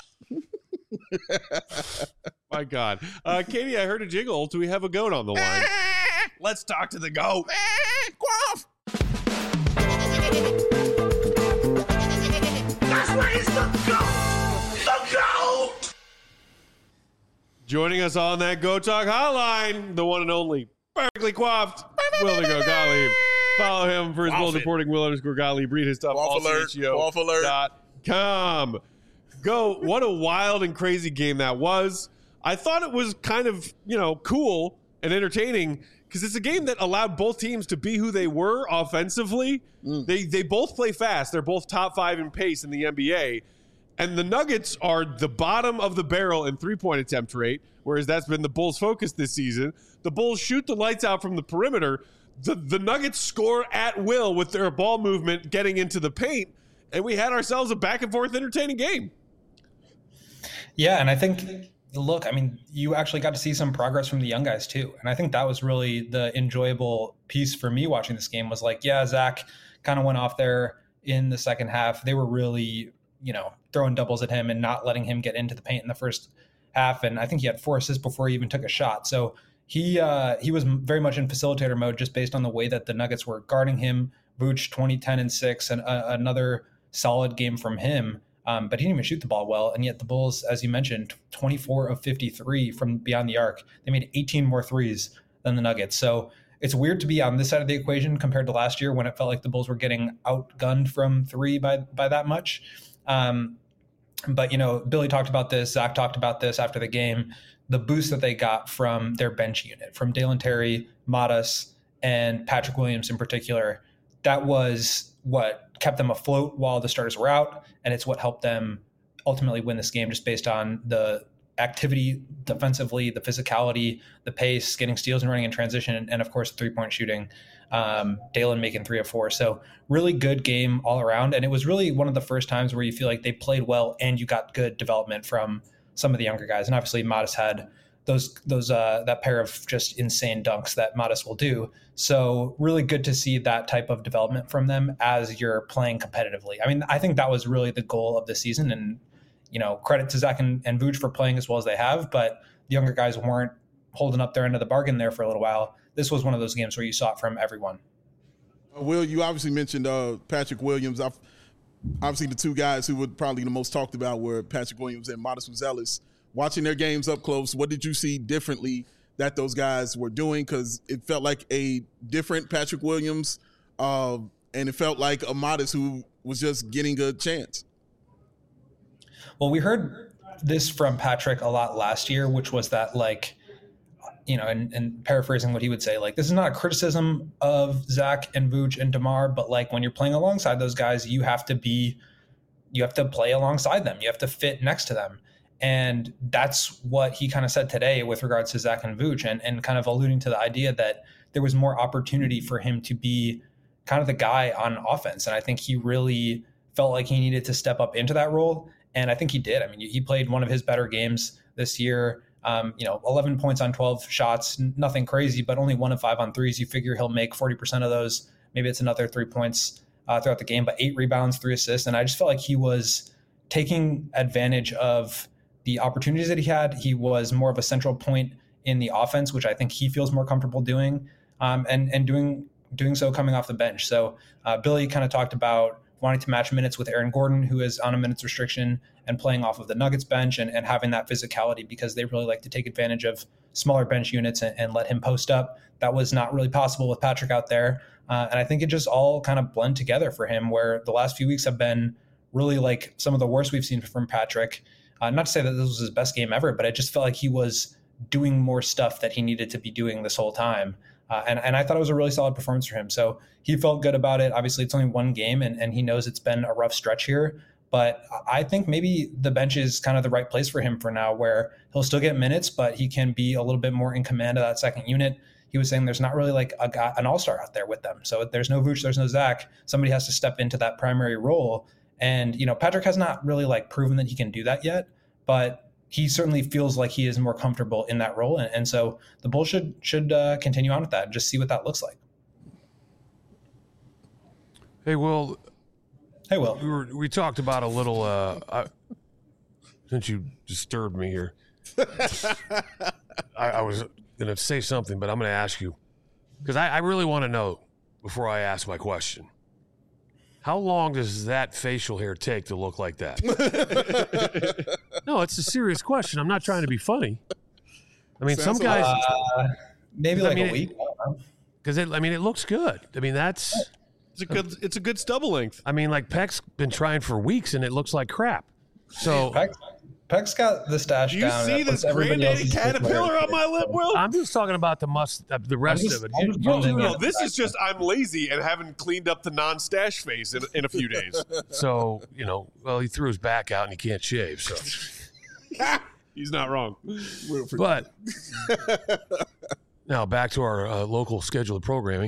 A: My God. Uh, Katie, I heard a jiggle. Do we have a goat on the line? Let's talk to the goat.
C: Quaff.
E: That's where it's the goat! The goat!
A: Joining us on that Go Talk hotline, the one and only, perfectly coiffed, Will the Goat Gottlieb. Follow him for his
C: Quaff
A: Bulls
C: it.
A: reporting. Will underscore Gottlieb. Read his stuff.
C: Quaff alert. Quaff alert.
A: Dot com. Go. What a wild and crazy game that was. I thought it was kind of, you know, cool and entertaining because it's a game that allowed both teams to be who they were offensively.
C: Mm.
A: They they both play fast. They're both top five in pace in the N B A. And the Nuggets are the bottom of the barrel in three-point attempt rate, whereas that's been the Bulls' focus this season. The Bulls shoot the lights out from the perimeter. The, the Nuggets score at will with their ball movement getting into the paint, and we had ourselves a back-and-forth entertaining game.
F: Yeah, and I think, look, I mean, you actually got to see some progress from the young guys too. And I think that was really the enjoyable piece for me watching this game was like, yeah, Zach kind of went off there in the second half. They were really, you know, throwing doubles at him and not letting him get into the paint in the first half. And I think he had four assists before he even took a shot. So he uh, he was very much in facilitator mode just based on the way that the Nuggets were guarding him. Vooch twenty, ten, and six, and uh, another solid game from him. Um, but he didn't even shoot the ball well. And yet the Bulls, as you mentioned, twenty-four of fifty-three from beyond the arc. They made eighteen more threes than the Nuggets. So it's weird to be on this side of the equation compared to last year when it felt like the Bulls were getting outgunned from three by, by that much. Um, but, you know, Billy talked about this. Zach talked about this after the game. The boost that they got from their bench unit, from Dalen Terry, Modest, and Patrick Williams in particular, that was what kept them afloat while the starters were out. And it's what helped them ultimately win this game just based on the activity defensively, the physicality, the pace, getting steals and running in transition, and, and of course, three-point shooting. Um, Dalen making three of four. So really good game all around. And it was really one of the first times where you feel like they played well and you got good development from some of the younger guys. And obviously Modest had those, those, uh, that pair of just insane dunks that Modest will do. So really good to see that type of development from them as you're playing competitively. I mean, I think that was really the goal of the season, and, you know, credit to Zach and, and Vooch for playing as well as they have, but the younger guys weren't holding up their end of the bargain there for a little while. This was one of those games where you saw it from everyone.
C: Uh, Will, you obviously mentioned uh, Patrick Williams. I've, obviously, the two guys who were probably the most talked about were Patrick Williams and Modest Uzelis. Watching their games up close, what did you see differently that those guys were doing? Because it felt like a different Patrick Williams, uh, and it felt like a Modest who was just getting a chance.
F: Well, we heard this from Patrick a lot last year, which was that, like, you know, and, and paraphrasing what he would say, like, this is not a criticism of Zach and Vooch and DeMar, but like when you're playing alongside those guys, you have to be, you have to play alongside them. You have to fit next to them. And that's what he kind of said today with regards to Zach and Vooch, and, and kind of alluding to the idea that there was more opportunity for him to be kind of the guy on offense. And I think he really felt like he needed to step up into that role. And I think he did. I mean, he played one of his better games this year. Um, you know, eleven points on twelve shots, nothing crazy, but only one of five on threes. You figure he'll make forty percent of those. Maybe it's another three points uh, throughout the game, but eight rebounds, three assists. And I just felt like he was taking advantage of the opportunities that he had. He was more of a central point in the offense, which I think he feels more comfortable doing, um, and, and doing, doing so coming off the bench. So uh, Billy kind of talked about wanting to match minutes with Aaron Gordon, who is on a minutes restriction and playing off of the Nuggets bench, and, and having that physicality because they really like to take advantage of smaller bench units and, and let him post up. That was not really possible with Patrick out there. Uh, and I think it just all kind of blend together for him, where the last few weeks have been really like some of the worst we've seen from Patrick. Uh, not to say that this was his best game ever, but I just felt like he was doing more stuff that he needed to be doing this whole time. Uh, and, and I thought it was a really solid performance for him. So he felt good about it. Obviously, it's only one game, and, and he knows it's been a rough stretch here. But I think maybe the bench is kind of the right place for him for now, where he'll still get minutes, but he can be a little bit more in command of that second unit. He was saying there's not really like a guy, an all-star out there with them. So there's no Vooch, there's no Zach. Somebody has to step into that primary role. And, you know, Patrick has not really like proven that he can do that yet, but he certainly feels like he is more comfortable in that role. And, and so the Bulls should, should uh, continue on with that and just see what that looks like.
D: Hey, Will.
F: Hey, Will.
D: We, were, we talked about a little, uh, I, since you disturbed me here, I, I was going to say something, but I'm going to ask you, because I, I really want to know before I ask my question. How long does that facial hair take to look like that? No, it's a serious question. I'm not trying to be funny. I mean,
C: Sounds
D: some guys
F: Uh, maybe like
D: I mean,
F: a week.
D: because it. I mean, it looks good. I mean, that's.
A: It's a good. It's a good stubble length.
D: I mean, like Peck's been trying for weeks, and it looks like crap. So
F: Peck, Peck's got the stash
A: Do you
F: down.
A: see
F: That puts
A: this
F: everybody
A: granddaddy
F: else's
A: caterpillar on my lip, Will?
D: I'm just talking about the must, uh, the rest
F: just-
D: of it.
F: I'm
D: You-
F: just
D: you-
F: bumming
A: No,
F: it.
A: this is just I'm lazy and haven't cleaned up the non-stash face in, in a few days.
D: so you know, well, he threw his back out and he can't shave. So,
A: He's not wrong.
D: but now back to our uh, local scheduled programming.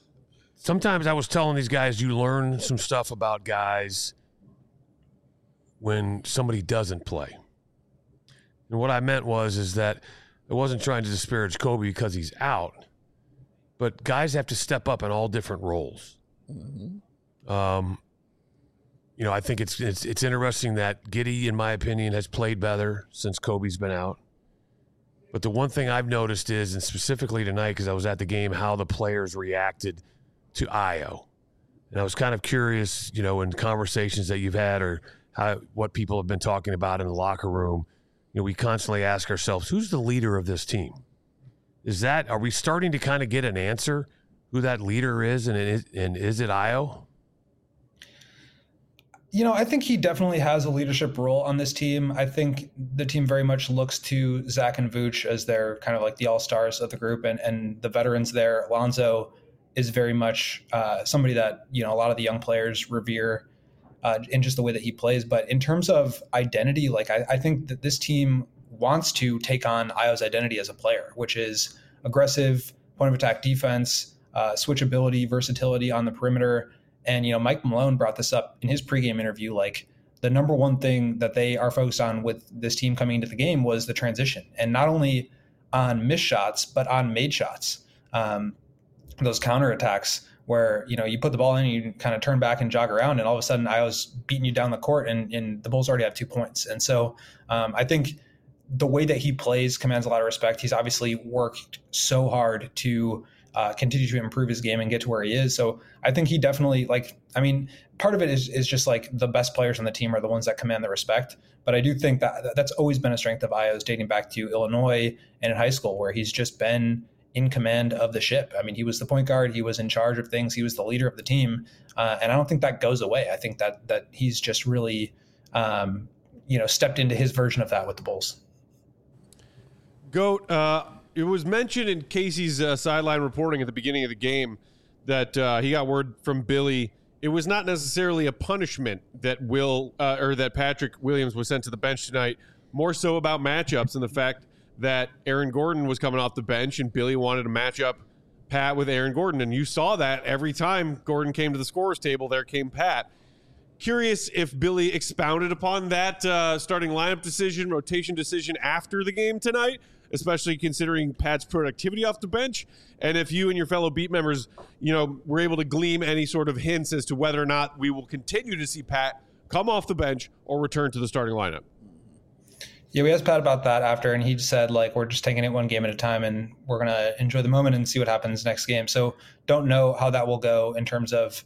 D: Sometimes I was telling these guys, you learn some stuff about guys when somebody doesn't play. And what I meant was is that I wasn't trying to disparage Kobe because he's out, but guys have to step up in all different roles. Mm-hmm. Um, you know, I think it's, it's it's interesting that Giddey, in my opinion, has played better since Kobe's been out. But the one thing I've noticed is, and specifically tonight, because I was at the game, how the players reacted to Ayo. And I was kind of curious, you know, in conversations that you've had or how what people have been talking about in the locker room, you know, we constantly ask ourselves, who's the leader of this team? Is that, are we starting to kind of get an answer who that leader is, and, it, and is it Ayo?
F: You know, I think he definitely has a leadership role on this team. I think the team very much looks to Zach and Vooch as their kind of like the all-stars of the group, and, and the veterans there. Lonzo is very much uh, somebody that, you know, a lot of the young players revere uh, in just the way that he plays. But in terms of identity, like I, I think that this team wants to take on Ayo's identity as a player, which is aggressive, point of attack defense, uh, switchability, versatility on the perimeter. And, you know, Mike Malone brought this up in his pregame interview. Like, the number one thing that they are focused on with this team coming into the game was the transition, and not only on missed shots, but on made shots. Um, those counterattacks where, you know, you put the ball in, you kind of turn back and jog around, and all of a sudden Ayo's beating you down the court, and, and the Bulls already have two points. And so um, I think the way that he plays commands a lot of respect. He's obviously worked so hard to Uh, continue to improve his game and get to where he is. So I think he definitely, like, I mean, part of it is is just like the best players on the team are the ones that command the respect. But I do think that that's always been a strength of Ayo's, dating back to Illinois and in high school, where he's just been in command of the ship. I mean, he was the point guard, he was in charge of things, he was the leader of the team. Uh, and I don't think that goes away. I think that that he's just really, um, you know, stepped into his version of that with the Bulls.
A: Goat, uh, it was mentioned in Casey's uh, sideline reporting at the beginning of the game that uh, he got word from Billy. It was not necessarily a punishment that Will uh, or that Patrick Williams was sent to the bench tonight, more so about matchups and the fact that Aaron Gordon was coming off the bench and Billy wanted to match up Pat with Aaron Gordon. And you saw that every time Gordon came to the scorer's table, there came Pat. Curious if Billy expounded upon that uh, starting lineup decision, rotation decision after the game tonight, especially considering Pat's productivity off the bench, and if you and your fellow beat members, you know, were able to glean any sort of hints as to whether or not we will continue to see Pat come off the bench or return to the starting lineup.
F: Yeah, we asked Pat about that after, and he said, like, we're just taking it one game at a time, and we're going to enjoy the moment and see what happens next game. So don't know how that will go in terms of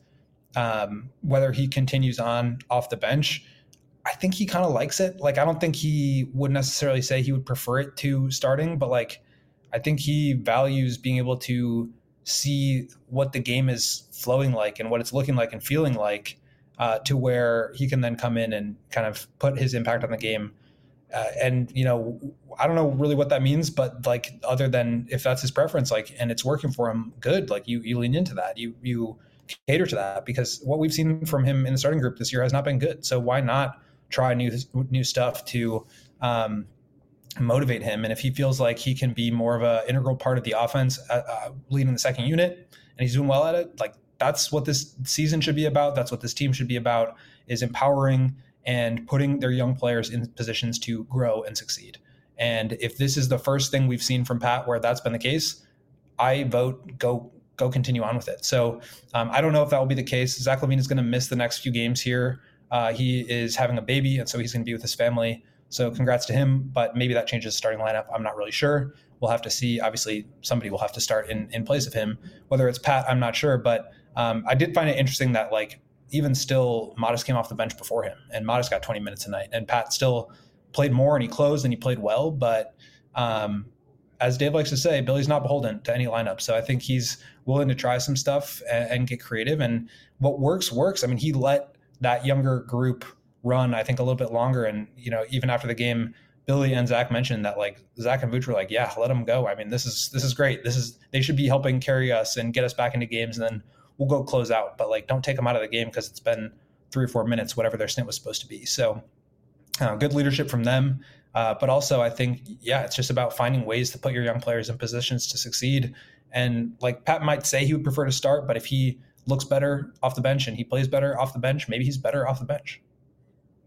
F: um, whether he continues on off the bench. I think he kind of likes it. Like, I don't think he would necessarily say he would prefer it to starting, but like, I think he values being able to see what the game is flowing like and what it's looking like and feeling like, uh, to where he can then come in and kind of put his impact on the game. Uh, and, you know, I don't know really what that means, but like, other than if that's his preference, like, and it's working for him, good. Like, you, you lean into that, you, you cater to that, because what we've seen from him in the starting group this year has not been good. So why not try new new stuff to um, motivate him? And if he feels like he can be more of an integral part of the offense, uh, uh, leading the second unit, and he's doing well at it, like, that's what this season should be about. That's what this team should be about, is empowering and putting their young players in positions to grow and succeed. And if this is the first thing we've seen from Pat where that's been the case, I vote go go continue on with it. So um, I don't know if that will be the case. Zach LaVine is going to miss the next few games here. Uh, he is having a baby, and so he's going to be with his family. So congrats to him, but maybe that changes the starting lineup. I'm not really sure. We'll have to see. Obviously, somebody will have to start in, in place of him. Whether it's Pat, I'm not sure. But um, I did find it interesting that, like, even still, Modest came off the bench before him, and Modest got twenty minutes tonight. And Pat still played more, and he closed, and he played well. But um, as Dave likes to say, Billy's not beholden to any lineup. So I think he's willing to try some stuff and, and get creative. And what works, works. I mean, he let that younger group run, I think, a little bit longer. And, you know, even after the game, Billy and Zach mentioned that, like, Zach and Vooch were like, yeah, let them go. I mean, this is, this is great. This is, they should be helping carry us and get us back into games, and then we'll go close out. But, like, don't take them out of the game because it's been three or four minutes, whatever their stint was supposed to be. So uh, good leadership from them. Uh, but also, I think, yeah, it's just about finding ways to put your young players in positions to succeed. And, like, Pat might say he would prefer to start, but if he looks better off the bench and he plays better off the bench, maybe he's better off the bench.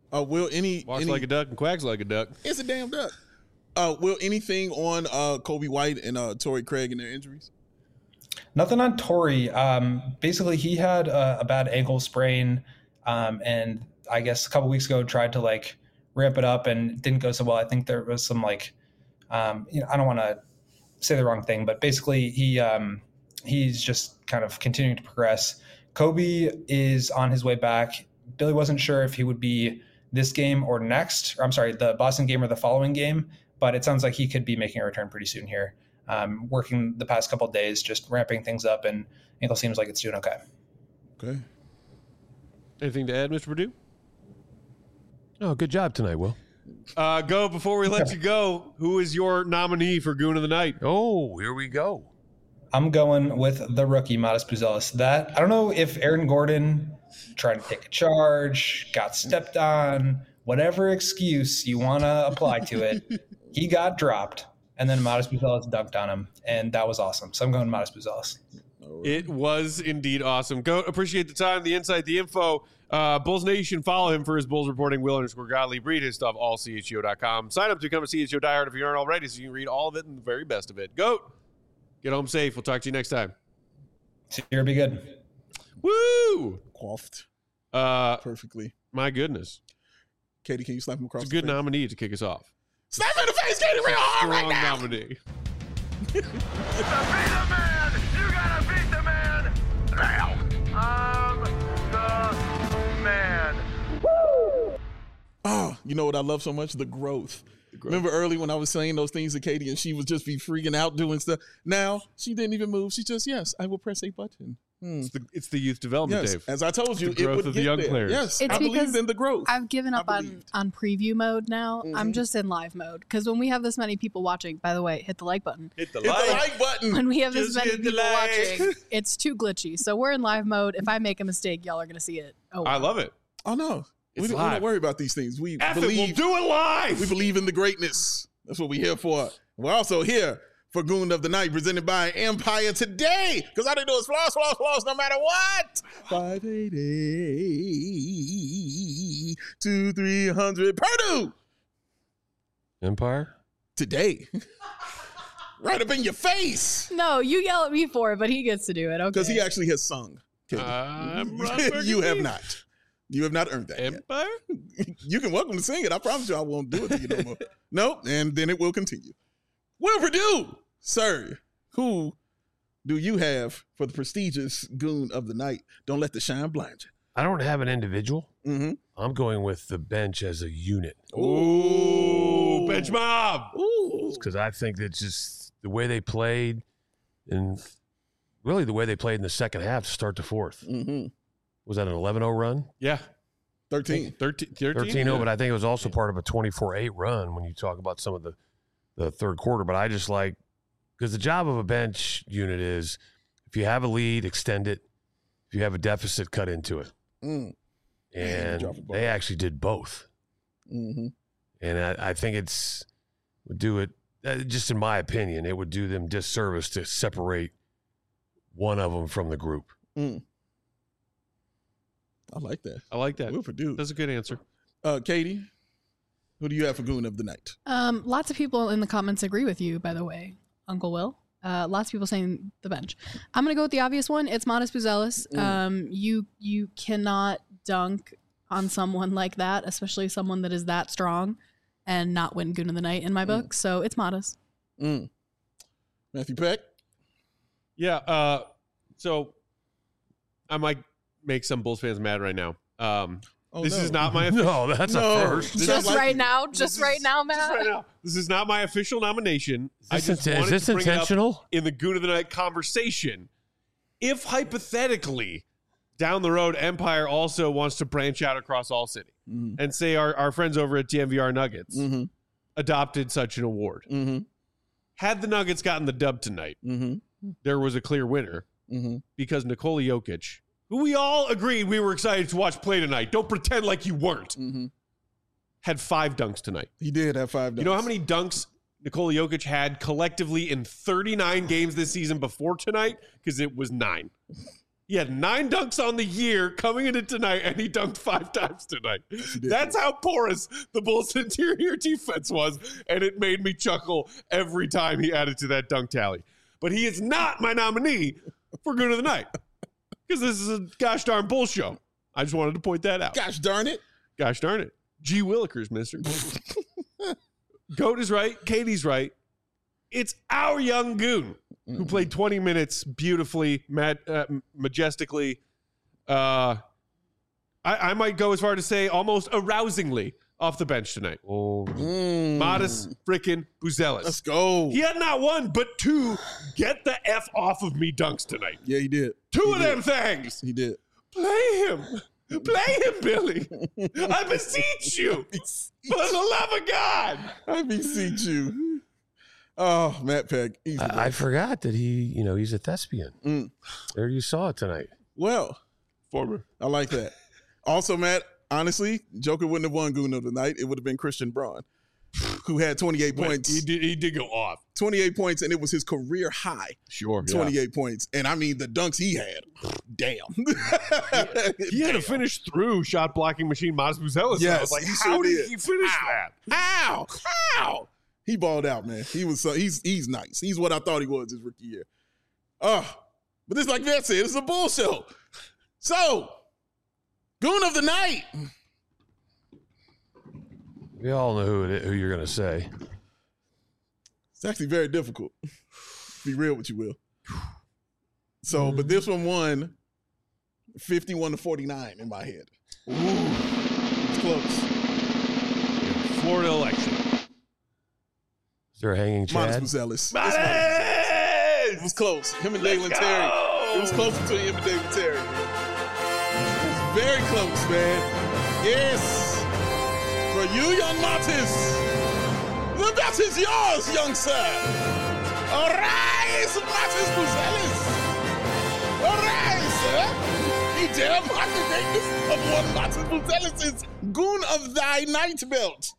C: Uh, will any
A: Walks
C: any,
A: like a duck and quacks like a duck.
C: It's a damn duck. Uh, will anything on uh, Kobe White and uh, Torrey Craig and their injuries?
F: Nothing on Torrey. Um, basically, he had a, a bad ankle sprain, um, and I guess a couple weeks ago tried to like ramp it up and didn't go so well. I think there was some like, um, you know, I don't want to say the wrong thing, but basically he um, he's just kind of continuing to progress. Kobe is on his way back. Billy wasn't sure if he would be this game or next, or I'm sorry, the Boston game or the following game, but it sounds like he could be making a return pretty soon here. Um, working the past couple of days, just ramping things up, and ankle seems like it's doing okay.
C: Okay.
A: Anything to add, Mister Purdue?
D: Oh, good job tonight, Will.
A: Uh, go before we let you go. Who is your nominee for Goon of the Night?
D: Oh, here we go.
F: I'm going with the rookie, Modest Buzelis. That, I don't know if Aaron Gordon tried to take a charge, got stepped on, whatever excuse you want to apply to it, he got dropped, and then Modest Buzelis dunked on him, and that was awesome. So I'm going Modest Buzelis.
A: It was indeed awesome. Go appreciate the time, the insight, the info. Uh, Bulls Nation, follow him for his Bulls reporting. Will underscore Gottlieb. Read his stuff, all C H G O dot com. Sign up to become a C H G O diehard if you aren't already, so you can read all of it and the very best of it. Goat, get home safe. We'll talk to you next time.
F: See you. Be good.
A: Woo!
C: Coughed
A: Uh,
C: perfectly.
A: my goodness.
C: Katie, can you slap him across
A: It's a
C: the
A: good
C: face?
A: nominee to kick us off.
C: Slap him in the face, Katie, real hard right
A: Strong
C: now.
A: nominee.
E: Beat the man! You gotta beat the man! Now! I'm the man.
C: Oh, you know what I love so much? The growth. Remember early when I was saying those things to Katie and she would just be freaking out doing stuff? Now, she didn't even move. She just, yes, I will press a button. Hmm.
A: It's the, it's the youth development,
C: Yes,
A: Dave.
C: as I told you,
A: the
C: it
A: growth
C: would
A: of the
C: get
A: young
C: there.
A: players.
C: Yes,
B: It's
C: I believe
B: because
C: in the growth.
B: I've given up
C: I
B: on,
C: believed.
B: on preview mode now.
C: Mhm.
B: I'm just in live mode. Because when we have this many people watching, by the way, hit the like button.
A: Hit the
C: Hit the like button.
B: When we have this
A: Just
B: many
A: hit the
B: people
A: like.
B: watching, it's too glitchy. So we're in live mode. If I make a mistake, y'all are going to see it. Oh,
A: I
B: well.
A: love it.
C: Oh, no. We
A: It's
C: don't, we
A: live.
C: don't worry about these things. We
A: F it,
C: believe
A: we'll do it live.
C: We believe in the greatness. That's what we're here for. We're also here for Goon of the Night, presented by Empire Today. Because all they do is floss, floss, floss, no matter what. five eighty to three hundred Purdue
D: Empire?
C: today. Right up in your face.
B: No, you yell at me for it, but he gets to do it. Okay.
C: Because he actually has sung. Katie.
A: I'm Ron
C: You have
A: Burgundy.
C: not. You have not earned that yet.
A: Empire?
C: You can welcome to sing it. I promise you I won't do it to you no more. Nope. And then it will continue. Will Purdue, sir, who do you have for the prestigious Goon of the Night? Don't let the shine blind
D: I don't have an individual.
C: you. Mm-hmm.
D: I'm going with the bench as a unit
A: Ooh, bench mob.
C: Ooh.
D: because I think that just the way they played and really the way they played in the second half to start the fourth.
C: Mm-hmm.
D: Was that an eleven oh run?
A: Yeah.
C: thirteen.
A: thirteen. thirteen,
D: thirteen oh,
A: yeah.
D: but I think it was also part of a twenty-four eight run when you talk about some of the, the third quarter. But I just like, because the job of a bench unit is if you have a lead, extend it. If you have a deficit, cut into it.
C: Mm. Man,
D: And
C: drop the ball.
D: they actually did both.
C: Mm-hmm.
D: And I, I think it's would do it, uh, just in my opinion, it would do them disservice to separate one of them from the group.
C: Mm. I like that.
A: I like that.
C: Will Purdue.
A: That's a good answer.
C: Uh, Katie, who do you have for Goon of the Night?
B: Um, lots of people in the comments agree with you, by the way, Uncle Will. Uh, lots of people saying the bench. I'm gonna go with the obvious one. It's Modest Buzelis.
C: Mm.
B: Um, you you cannot dunk on someone like that, especially someone that is that strong, and not win Goon of the Night in my book. So it's Modest.
C: Mm. Matthew Peck.
A: Yeah. Uh, so I might make some Bulls fans mad right now. Um,
C: Oh,
A: this
C: no.
A: is not my
D: No, that's
C: No.
D: a first.
C: This
B: Just
C: is like-
B: right now,
A: This
B: just
A: is-
B: right now,
A: just
B: Matt.
A: right now. This is not my official nomination. I
D: Is
A: just
D: this,
A: wanted
D: is this
A: to bring it up
D: intentional?
A: in the Goon of the Night conversation. If hypothetically down the road Empire also wants to branch out across all city
C: Mm-hmm.
A: and say our, our friends over at D M V R Nuggets
C: Mm-hmm.
A: adopted such an award,
C: Mm-hmm.
A: had the Nuggets gotten the dub tonight,
C: Mm-hmm.
A: there was a clear winner
C: Mm-hmm.
A: because Nikola Jokic, who we all agreed we were excited to watch play tonight, don't pretend like you weren't,
C: Mm-hmm.
A: had five dunks tonight.
C: He did have five.
A: You know how
C: dunks.
A: many dunks Nikola Jokic had collectively in thirty-nine games this season before tonight? Because it was nine. He had nine dunks on the year coming into tonight, and he dunked five times tonight. That's how porous the Bulls' interior defense was, and it made me chuckle every time he added to that dunk tally. But he is not my nominee for Goon of the Night, because this is a gosh darn Bull show. I just wanted to point that out.
C: Gosh darn it.
A: Gosh darn it. G. Willikers, mister. Goat is right. Katie's right. It's our young Goon who played twenty minutes beautifully, mad, uh, majestically. Uh, I, I might go as far to say almost arousingly off the bench tonight.
D: Oh,
C: Mm.
A: Modest frickin' Buzelis.
C: Let's go.
A: He had not one, but two get the F off of me dunks tonight.
C: Yeah, he did.
A: Two
C: He
A: of
C: did.
A: them things.
C: He did.
A: Play him. Play him, Billy. I beseech you. For the love of God.
C: I beseech you. Oh, Matt Peck. He's the
D: I, I
C: best.
D: forgot that he, you know, he's a thespian.
C: Mm.
D: There you saw it tonight.
C: Well,
A: Former.
C: I like that. Also, Matt, honestly, Joker wouldn't have won Goon of the Night. It would have been Christian Braun, who had twenty-eight
A: Wait,
C: points.
A: He did, he did go off.
C: twenty-eight points, and it was his career high.
A: Sure.
C: twenty-eight points. And I mean, the dunks he had. Damn.
A: He had to finish through shot blocking machine Modest Buzelis. I
C: Yes,
A: was like,
C: he
A: how
C: sure
A: did
C: did.
A: he finish
C: How?
A: that?
C: How? How? He balled out, man. He was so he's he's nice. He's what I thought he was his rookie year. Oh, but this, like Vet said, it's a bull show. So, Goon of the Night.
D: We all know who it, who you're going to say.
C: It's actually very difficult. Be real with you, Will. So, but this one won fifty-one to forty-nine in my head. Ooh, it's close.
A: Florida election.
D: Is there a hanging Chad?
C: Modest Buzelis.
A: Modest!
C: It was close. Him and Dalen Terry. It was close between him and Dalen Terry. It was very close, man. Yes. For you, young Martis, the bet is yours, young sir. Arise, Martis Buzelis. Arise, sir. He dare mock the greatness of one Martis Buzelis' Goon of thy Night belt.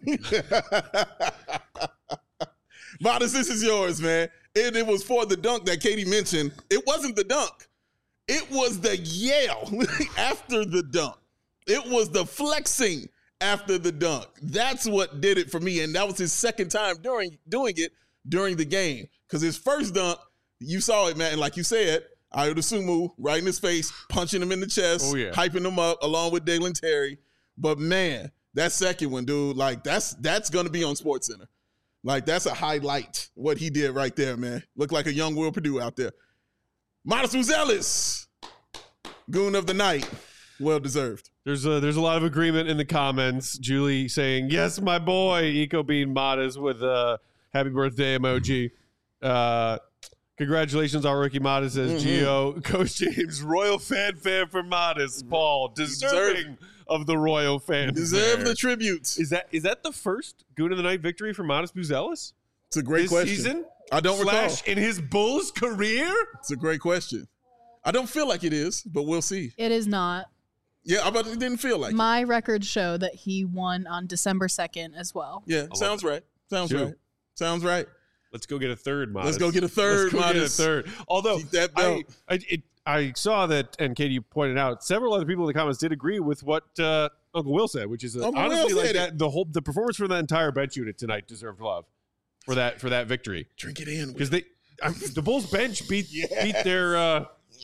C: Modest, this is yours, man. And it was for the dunk that Katie mentioned. It wasn't the dunk. It was the yell after the dunk. It was the flexing after the dunk. That's what did it for me. And that was his second time during doing it during the game. Because his first dunk, you saw it, man. And like you said, Ayo Dosunmu right in his face, punching him in the chest,
A: Oh, yeah.
C: hyping him up along with Dalen Terry. But man, that second one, dude, like that's that's gonna be on SportsCenter. Like that's a highlight. What he did right there, man. Looked like a young Will Purdue out there. Modest Buzelis, Goon of the Night, well deserved.
A: There's a, there's a lot of agreement in the comments. Julie saying, yes, my boy, Eco Bean Modest with a happy birthday emoji. Uh, congratulations on rookie Modest, says
C: Mm-hmm.
A: Gio. Coach James, royal fanfare for Modest. Paul, deserving of the royal fanfare.
C: Deserve the tributes.
A: Is that is that the first Goon of the Night victory for Modest Buzelis
C: It's a great
A: this
C: question.
A: season?
C: I don't
A: Slash
C: recall.
A: in his Bulls career?
C: It's a great question. I don't feel like it is, but we'll see.
B: It is not.
C: Yeah, I but it didn't feel like it.
B: My records show that he won on December second as well.
C: Yeah, sounds right. Sounds
A: Two.
C: right. Sounds right.
A: Let's go get a third Modest.
C: Let's go get a third
A: Let's go
C: Modest.
A: get a third. Although
C: Keep that
A: I,
C: belt.
A: I, it, I saw that, and Katie pointed out, several other people in the comments did agree with what uh, Uncle Will said, which is that
C: Uncle Will
A: honestly like
C: said it.
A: that the whole the performance for that entire bench unit tonight deserved love for that for that victory
C: Drink it in.
A: because they I, the Bulls bench beat beat their uh,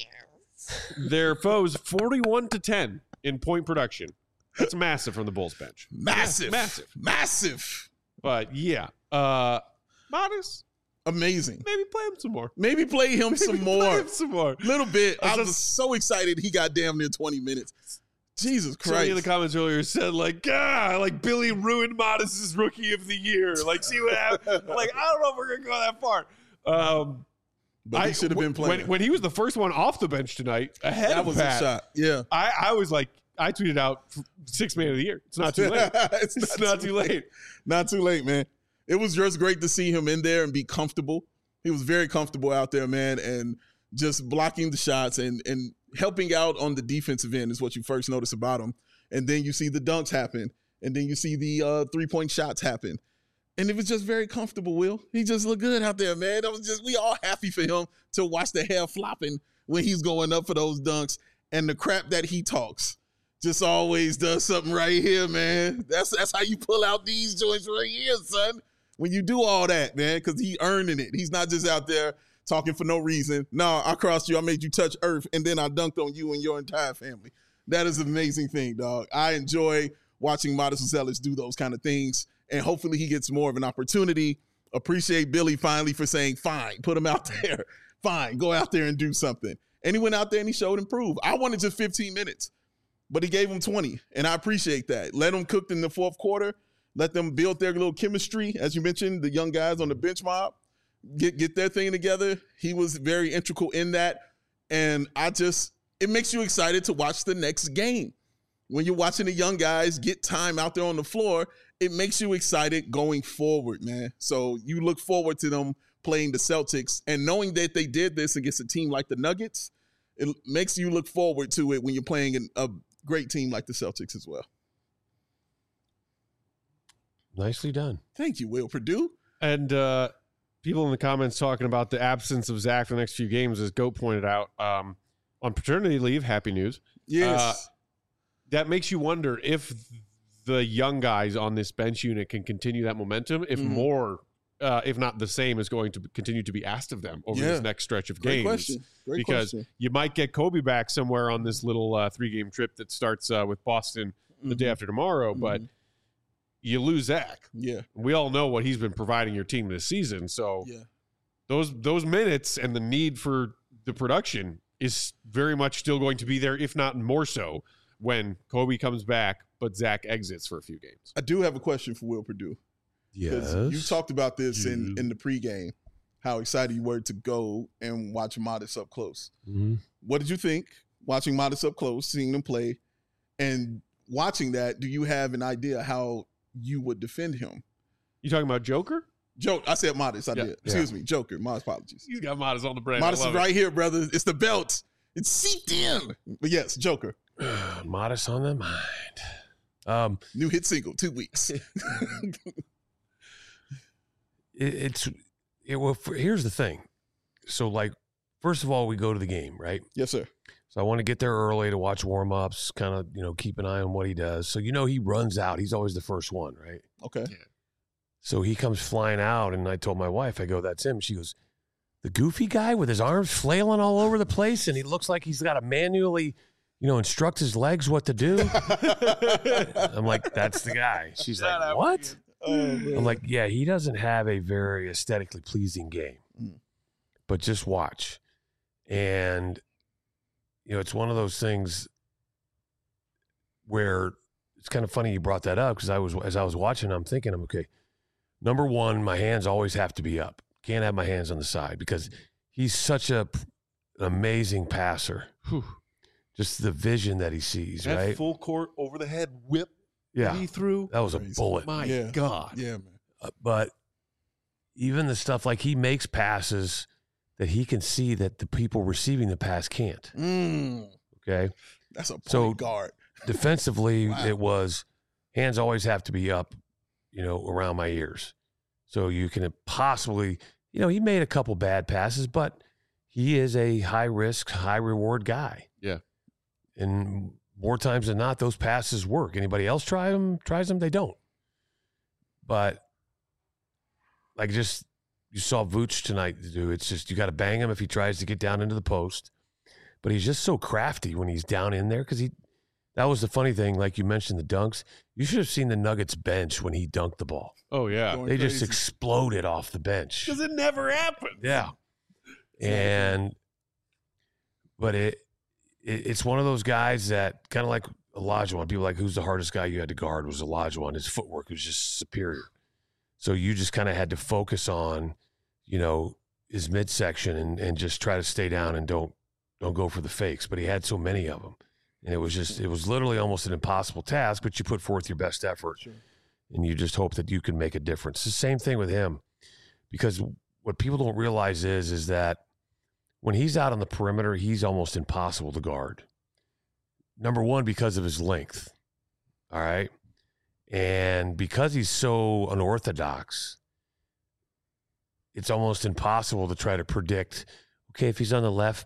A: their foes forty-one to ten in point production. That's massive from the Bulls bench.
C: Massive.
A: Massive.
C: Massive.
A: But yeah, uh, Modest,
C: Amazing.
A: maybe play him some more.
C: Maybe play him some
A: Maybe play
C: more.
A: him some more.
C: Little bit.
A: I
C: I
A: was
C: was so excited he got damn near twenty minutes. Jesus
A: Somebody in the
C: Christ.
A: comments earlier said like, ah, like Billy ruined Modest's rookie of the year. Like, see what happened? Like, I don't know if we're gonna go that far. Um,
C: But he
A: I-
C: should have been
A: when-
C: playing.
A: When, when he was the first one off the bench tonight, ahead
C: that
A: of
C: was
A: Pat,
C: a shot. Yeah.
A: I, I was like, I tweeted out six man of the year. It's not too late.
C: it's
A: It's not too late.
C: Not too late, man. It was just great to see him in there and be comfortable. He was very comfortable out there, man, and just blocking the shots and and helping out on the defensive end is what you first notice about him. And then you see the dunks happen, and then you see the uh, three-point shots happen. And it was just very comfortable, Will. He just looked good out there, man. That was just, we all happy for him to watch the hair flopping when he's going up for those dunks, and the crap that he talks just always does something right here, man. That's that's how you pull out these joints right here, son. When you do all that, man, because he earning it. He's not just out there talking for no reason. No, I crossed you. I made you touch earth, and then I dunked on you and your entire family. That is an amazing thing, dog. I enjoy watching Modest Zealous do those kind of things, and hopefully he gets more of an opportunity. Appreciate Billy finally for saying, fine, put him out there. Fine, go out there and do something. And he went out there and he showed improve. I wanted just fifteen minutes, but he gave him twenty, and I appreciate that. Let them cook in the fourth quarter. Let them build their little chemistry. As you mentioned, the young guys on the bench mob, get, get their thing together. He was very integral in that, and I just, it makes you excited to watch the next game. When you're watching the young guys get time out there on the floor, it makes you excited going forward, man. So you look forward to them playing the Celtics, and knowing that they did this against a team like the Nuggets, it makes you look forward to it when you're playing a great team like the Celtics as well.
D: Nicely done.
C: Thank you, Will Purdue.
A: And uh, people in the comments talking about the absence of Zach for the next few games, as Goat pointed out, um, on paternity leave, happy news.
C: Yes.
A: Uh, that makes you wonder if the young guys on this bench unit can continue that momentum, if
C: Mhm.
A: more, uh, if not the same, is going to continue to be asked of them over
C: Yeah.
A: this next stretch of
C: Great
A: games.
C: question. Great
A: because
C: question.
A: you might get Kobe back somewhere on this little uh, three-game trip that starts uh, with Boston the day
C: Mhm.
A: after tomorrow, but
C: Mhm.
A: you lose Zach.
C: Yeah.
A: We all know what he's been providing your team this season, so
C: Yeah.
A: those those minutes and the need for the production is very much still going to be there, if not more so, when Kobe comes back, but Zach exits for a few games.
C: I do have a question for Will Purdue.
D: Yes.
C: You talked about this in,
A: Mhm.
C: in the pregame, how excited you were to go and watch Modest up close.
D: Mhm.
C: What did you think watching Modest up close, seeing them play, and watching that? Do you have an idea how you would defend him?
A: You talking about Joker?
C: Joke. I said Modest. I
A: Yeah.
C: did. Excuse me. Joker. My apologies.
A: He's got Modest on the brand.
C: Modest
A: I
C: is
A: love
C: right here, brother. It's the belt. It's seeped in. But yes, Joker.
D: Modest on the mind. Um,
C: New hit single, two weeks.
D: it, it's it, well. For, here's the thing. So, like, first of all, we go to the game, right?
C: Yes, sir.
D: So I want to get there early to watch warm ups, kind of, you know, keep an eye on what he does. So you know he runs out. He's always the first one, right?
C: Okay.
D: So he comes flying out, and I told my wife, I go, "That's him." She goes, "The goofy guy with his arms flailing all over the place, and he looks like he's got to manually, you know, instruct his legs what to do." I'm like, "That's the guy." She's like, "What?"
C: Oh, man.
D: I'm like, "Yeah, he doesn't have a very aesthetically pleasing game,
C: Mm.
D: but just watch." And you know, it's one of those things where it's kind of funny you brought that up, because I was as I was watching, I'm thinking, I'm okay. Number one, my hands always have to be up. Can't have my hands on the side, because he's such a an amazing passer.
A: Whew.
D: Just the vision that he sees,
A: That
D: right?
A: full court over the head whip
D: Yeah,
A: that he threw.
D: that was a
C: Crazy.
D: bullet.
A: My
C: Yeah.
A: God.
C: Yeah, man.
D: Uh, but even the stuff like he makes passes that he can see that the people receiving the pass can't.
C: Mm,
D: Okay.
C: that's a point
D: So-
C: guard.
D: Defensively,
C: Wow.
D: it was hands always have to be up, you know, around my ears. So you can possibly, you know, he made a couple bad passes, but he is a high risk, high reward guy.
A: Yeah.
D: And more times than not, those passes work. Anybody else try them, tries them, they don't. But like just you saw Vooch tonight do. It's just you got to bang him if he tries to get down into the post. But he's just so crafty when he's down in there, because he. That was the funny thing, like you mentioned, the dunks. You should have seen the Nuggets bench when he dunked the ball.
A: Oh, yeah.
C: Going
D: They just
C: crazy.
D: exploded off the bench.
A: Because it never happened.
D: Yeah. And, but it, it it's one of those guys that kind of like Olajuwon. People like, who's the hardest guy you had to guard was Olajuwon. His footwork was just superior. So you just kind of had to focus on, you know, his midsection and, and just try to stay down and don't don't go for the fakes. But he had so many of them. And it was just, it was literally almost an impossible task, but you put forth your best effort.
C: Sure.
D: And you just hope that you can make a difference. The same thing with him, because what people don't realize is, is that when he's out on the perimeter, he's almost impossible to guard. Number one, because of his length. All right. And because he's so unorthodox, it's almost impossible to try to predict, okay, if he's on the left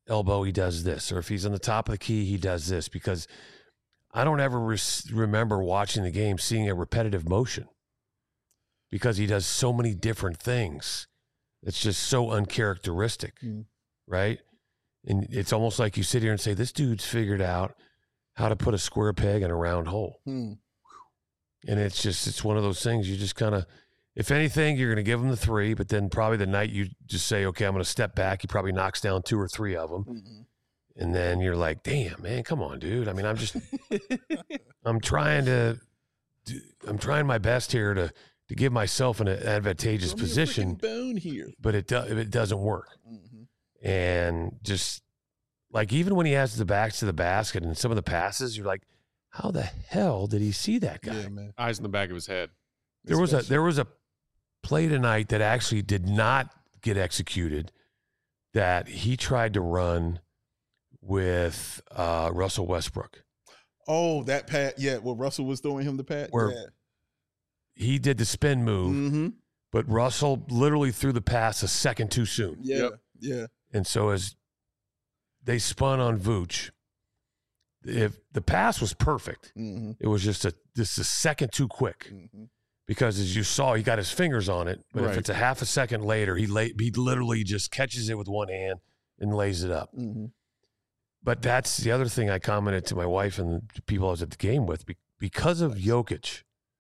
D: elbow, he does this. Or if he's on the top of the key, he does this. Because I don't ever res- remember watching the game seeing a repetitive motion because he does so many different things. It's just so uncharacteristic, mm. right? And it's almost like you sit here and say, this dude's figured out how to put a square peg in a round hole. Mm. And it's just, it's one of those things you just kind of, if anything, you're going to give him the three, but then probably the night you just say, okay, I'm going to step back. He probably knocks down two or three of them. Mm-hmm. And then you're like, damn, man, come on, dude. I mean, I'm just, I'm trying to, I'm trying my best here to, to give myself an advantageous Throw position.
C: Bone here.
D: But it, do, it doesn't work. Mm-hmm. And just like, even when he has the backs to the basket and some of the passes, you're like, how the hell did he see that guy?
C: Yeah, man.
A: Eyes in the back of his head.
D: There was a, there was a play tonight that actually did not get executed that he tried to run with uh, Russell Westbrook.
C: Oh, that pat. Yeah, well, Russell was throwing him the pat.
D: Where
C: yeah.
D: he did the spin move, mm-hmm. but Russell literally threw the pass a second too soon.
C: Yeah, yep. yeah.
D: And so as they spun on Vooch, if the pass was perfect, mm-hmm. it was just a just a second too quick. Mm-hmm. Because as you saw, he got his fingers on it. But right. if it's a half a second later, he lay, he literally just catches it with one hand and lays it up. Mm-hmm. But that's the other thing I commented to my wife and the people I was at the game with. Because of Jokic,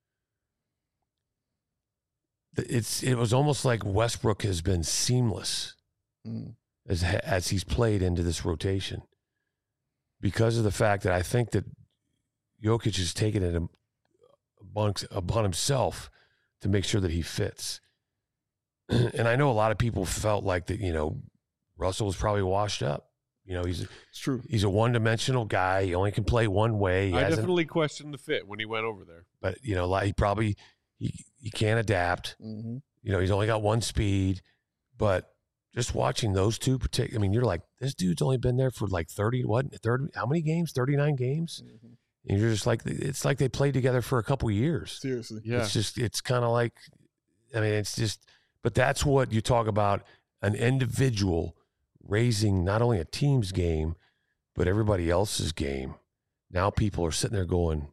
D: it's it was almost like Westbrook has been seamless mm. as as he's played into this rotation. Because of the fact that I think that Jokic has taken it upon himself to make sure that he fits. And I know a lot of people felt like that, you know, Russell was probably washed up. You know, he's
C: it's true.
D: He's a one-dimensional guy. He only can play one way. He
A: I definitely questioned the fit when he went over there.
D: But, you know, like he probably he, he can't adapt. Mm-hmm. You know, he's only got one speed. But just watching those two, particular, I mean, you're like, this dude's only been there for like thirty, what, thirty, how many games? thirty-nine games? Mm-hmm. And you're just like, it's like they played together for a couple of years.
C: Seriously.
A: Yeah.
D: It's just, it's kind of like, I mean, it's just, but that's what you talk about, an individual raising not only a team's game, but everybody else's game. Now people are sitting there going,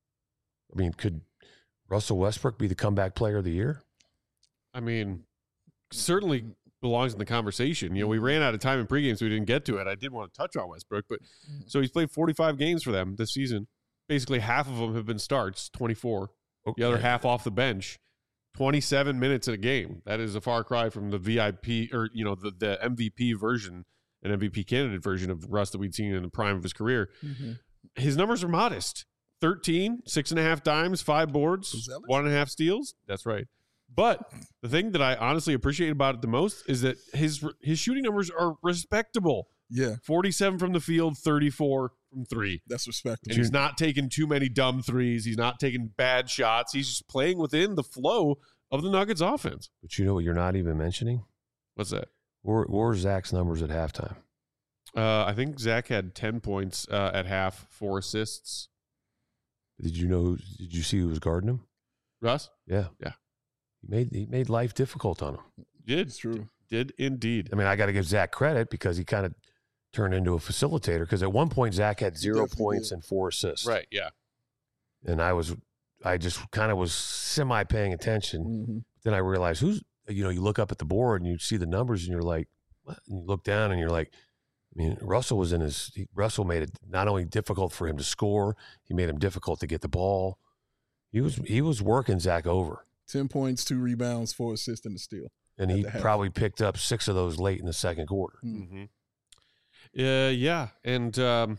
D: I mean, could Russell Westbrook be the comeback player of the year?
A: I mean, certainly belongs in the conversation. You know, we ran out of time in pregame, so we didn't get to it. I did want to touch on Westbrook, but so he's played forty-five games for them this season. Basically, half of them have been starts, twenty-four. Okay. The other half off the bench, twenty-seven minutes in a game. That is a far cry from the V I P or, you know, the, the M V P version, an M V P candidate version of Russ that we'd seen in the prime of his career. Mm-hmm. His numbers are modest. thirteen, six and a half dimes, five boards, one and a half steals. That's right. But the thing that I honestly appreciate about it the most is that his his shooting numbers are respectable.
C: Yeah.
A: forty-seven from the field, thirty-four from three.
C: That's respectable.
A: And he's not taking too many dumb threes. He's not taking bad shots. He's just playing within the flow of the Nuggets offense.
D: But you know what you're not even mentioning?
A: What's that?
D: What were Zach's numbers at halftime?
A: Uh, I think Zach had ten points uh, at half, four assists.
D: Did you know? Who, did you see who was guarding him?
A: Russ?
D: Yeah.
A: Yeah.
D: He made he made life difficult on him.
A: Did.
C: It's true.
A: Did indeed.
D: I mean, I got to give Zach credit because he kind of turned into a facilitator because at one point Zach had zero points did. and four assists.
A: Right, yeah.
D: And I was, I just kind of was semi paying attention. Mm-hmm. Then I realized who's, you know, you look up at the board and you see the numbers and you're like, what? And you look down and you're like, I mean, Russell was in his, he, Russell made it not only difficult for him to score, he made him difficult to get the ball. He was, he was working Zach over.
C: ten points, two rebounds, four assists, and a steal.
D: And he probably picked up six of those late in the second quarter.
A: Mm-hmm. Uh, yeah. And um,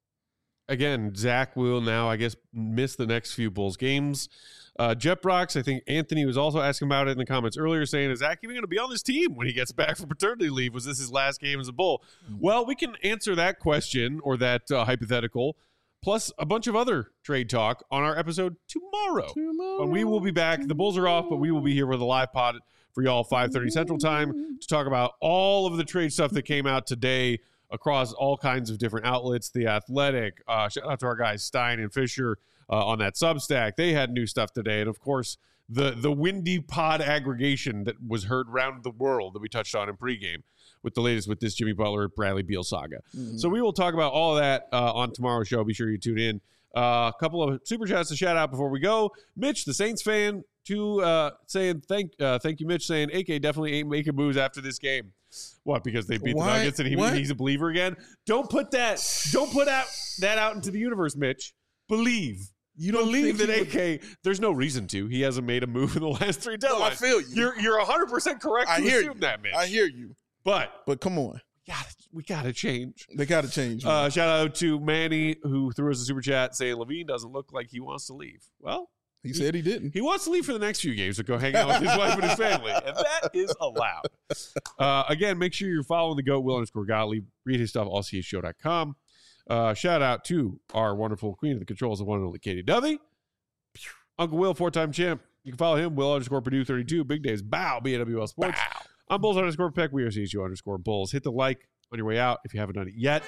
A: again, Zach will now, I guess, miss the next few Bulls games. Uh, Jet Brox, I think Anthony was also asking about it in the comments earlier, saying, is Zach even going to be on this team when he gets back from paternity leave? Was this his last game as a Bull? Mm-hmm. Well, we can answer that question or that uh, hypothetical, plus a bunch of other trade talk on our episode tomorrow. tomorrow. When we will be back. The Bulls are off, but we will be here with a live pod for y'all five thirty Central Time to talk about all of the trade stuff that came out today across all kinds of different outlets. The Athletic, uh, shout out to our guys Stein and Fisher uh, on that Substack. They had new stuff today. And, of course, the the windy pod aggregation that was heard around the world that we touched on in pregame. with the latest with this Jimmy Butler, Bradley Beal saga.
C: Mm-hmm.
A: So we will talk about all of that uh, on tomorrow's show. Be sure you tune in. A uh, couple of super chats to shout out before we go. Mitch, the Saints fan, to uh, saying thank uh, thank you, Mitch, saying A K definitely ain't making moves after this game. What? Because they beat
C: Why?
A: the Nuggets and he,
C: What?
A: he's a believer again. Don't put that. Don't put out that out into the universe, Mitch. Believe.
C: You don't
A: Believe
C: think
A: that
C: he
A: A
C: would-
A: K. There's no reason to. He hasn't made a move in the last three deadlines.
C: No, I feel you.
A: You're you're one hundred percent correct
C: I
A: to
C: hear
A: assume
C: you.
A: that, Mitch.
C: I hear you.
A: But
C: But come on.
A: we gotta, we gotta change.
C: They got to change. man.
A: Uh, shout out to Manny who threw us a super chat saying Levine doesn't look like he wants to leave. Well,
C: he said he didn't.
A: he wants to leave for the next few games to go hang out with his wife and his family, and that is allowed. Uh, again, make sure you're following the GOAT, Will underscore Gottlieb. Read his stuff, all c h show dot com. Uh, shout out to our wonderful queen of the controls, the one and only Katie Dovey. Uncle Will, four-time champ. You can follow him, Will underscore Purdue thirty-two. Big Days, bow, B A W L Sports. Bow. I'm Bulls underscore Peck. We are C H U underscore Bulls. Hit the like on your way out if you haven't done it yet.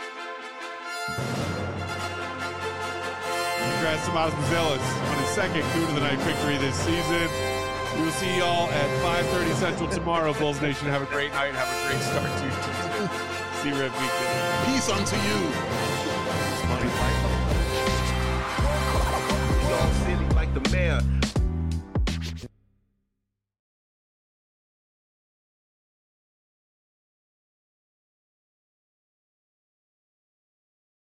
A: Congrats to Miles Mazelis on his second Coon of the Night victory this season. We will see y'all at five thirty Central tomorrow. Bulls Nation, have a great night. Have a great start to your Tuesday. See you, Red Weekend.
C: Peace unto you.
E: Y'all silly like the mayor.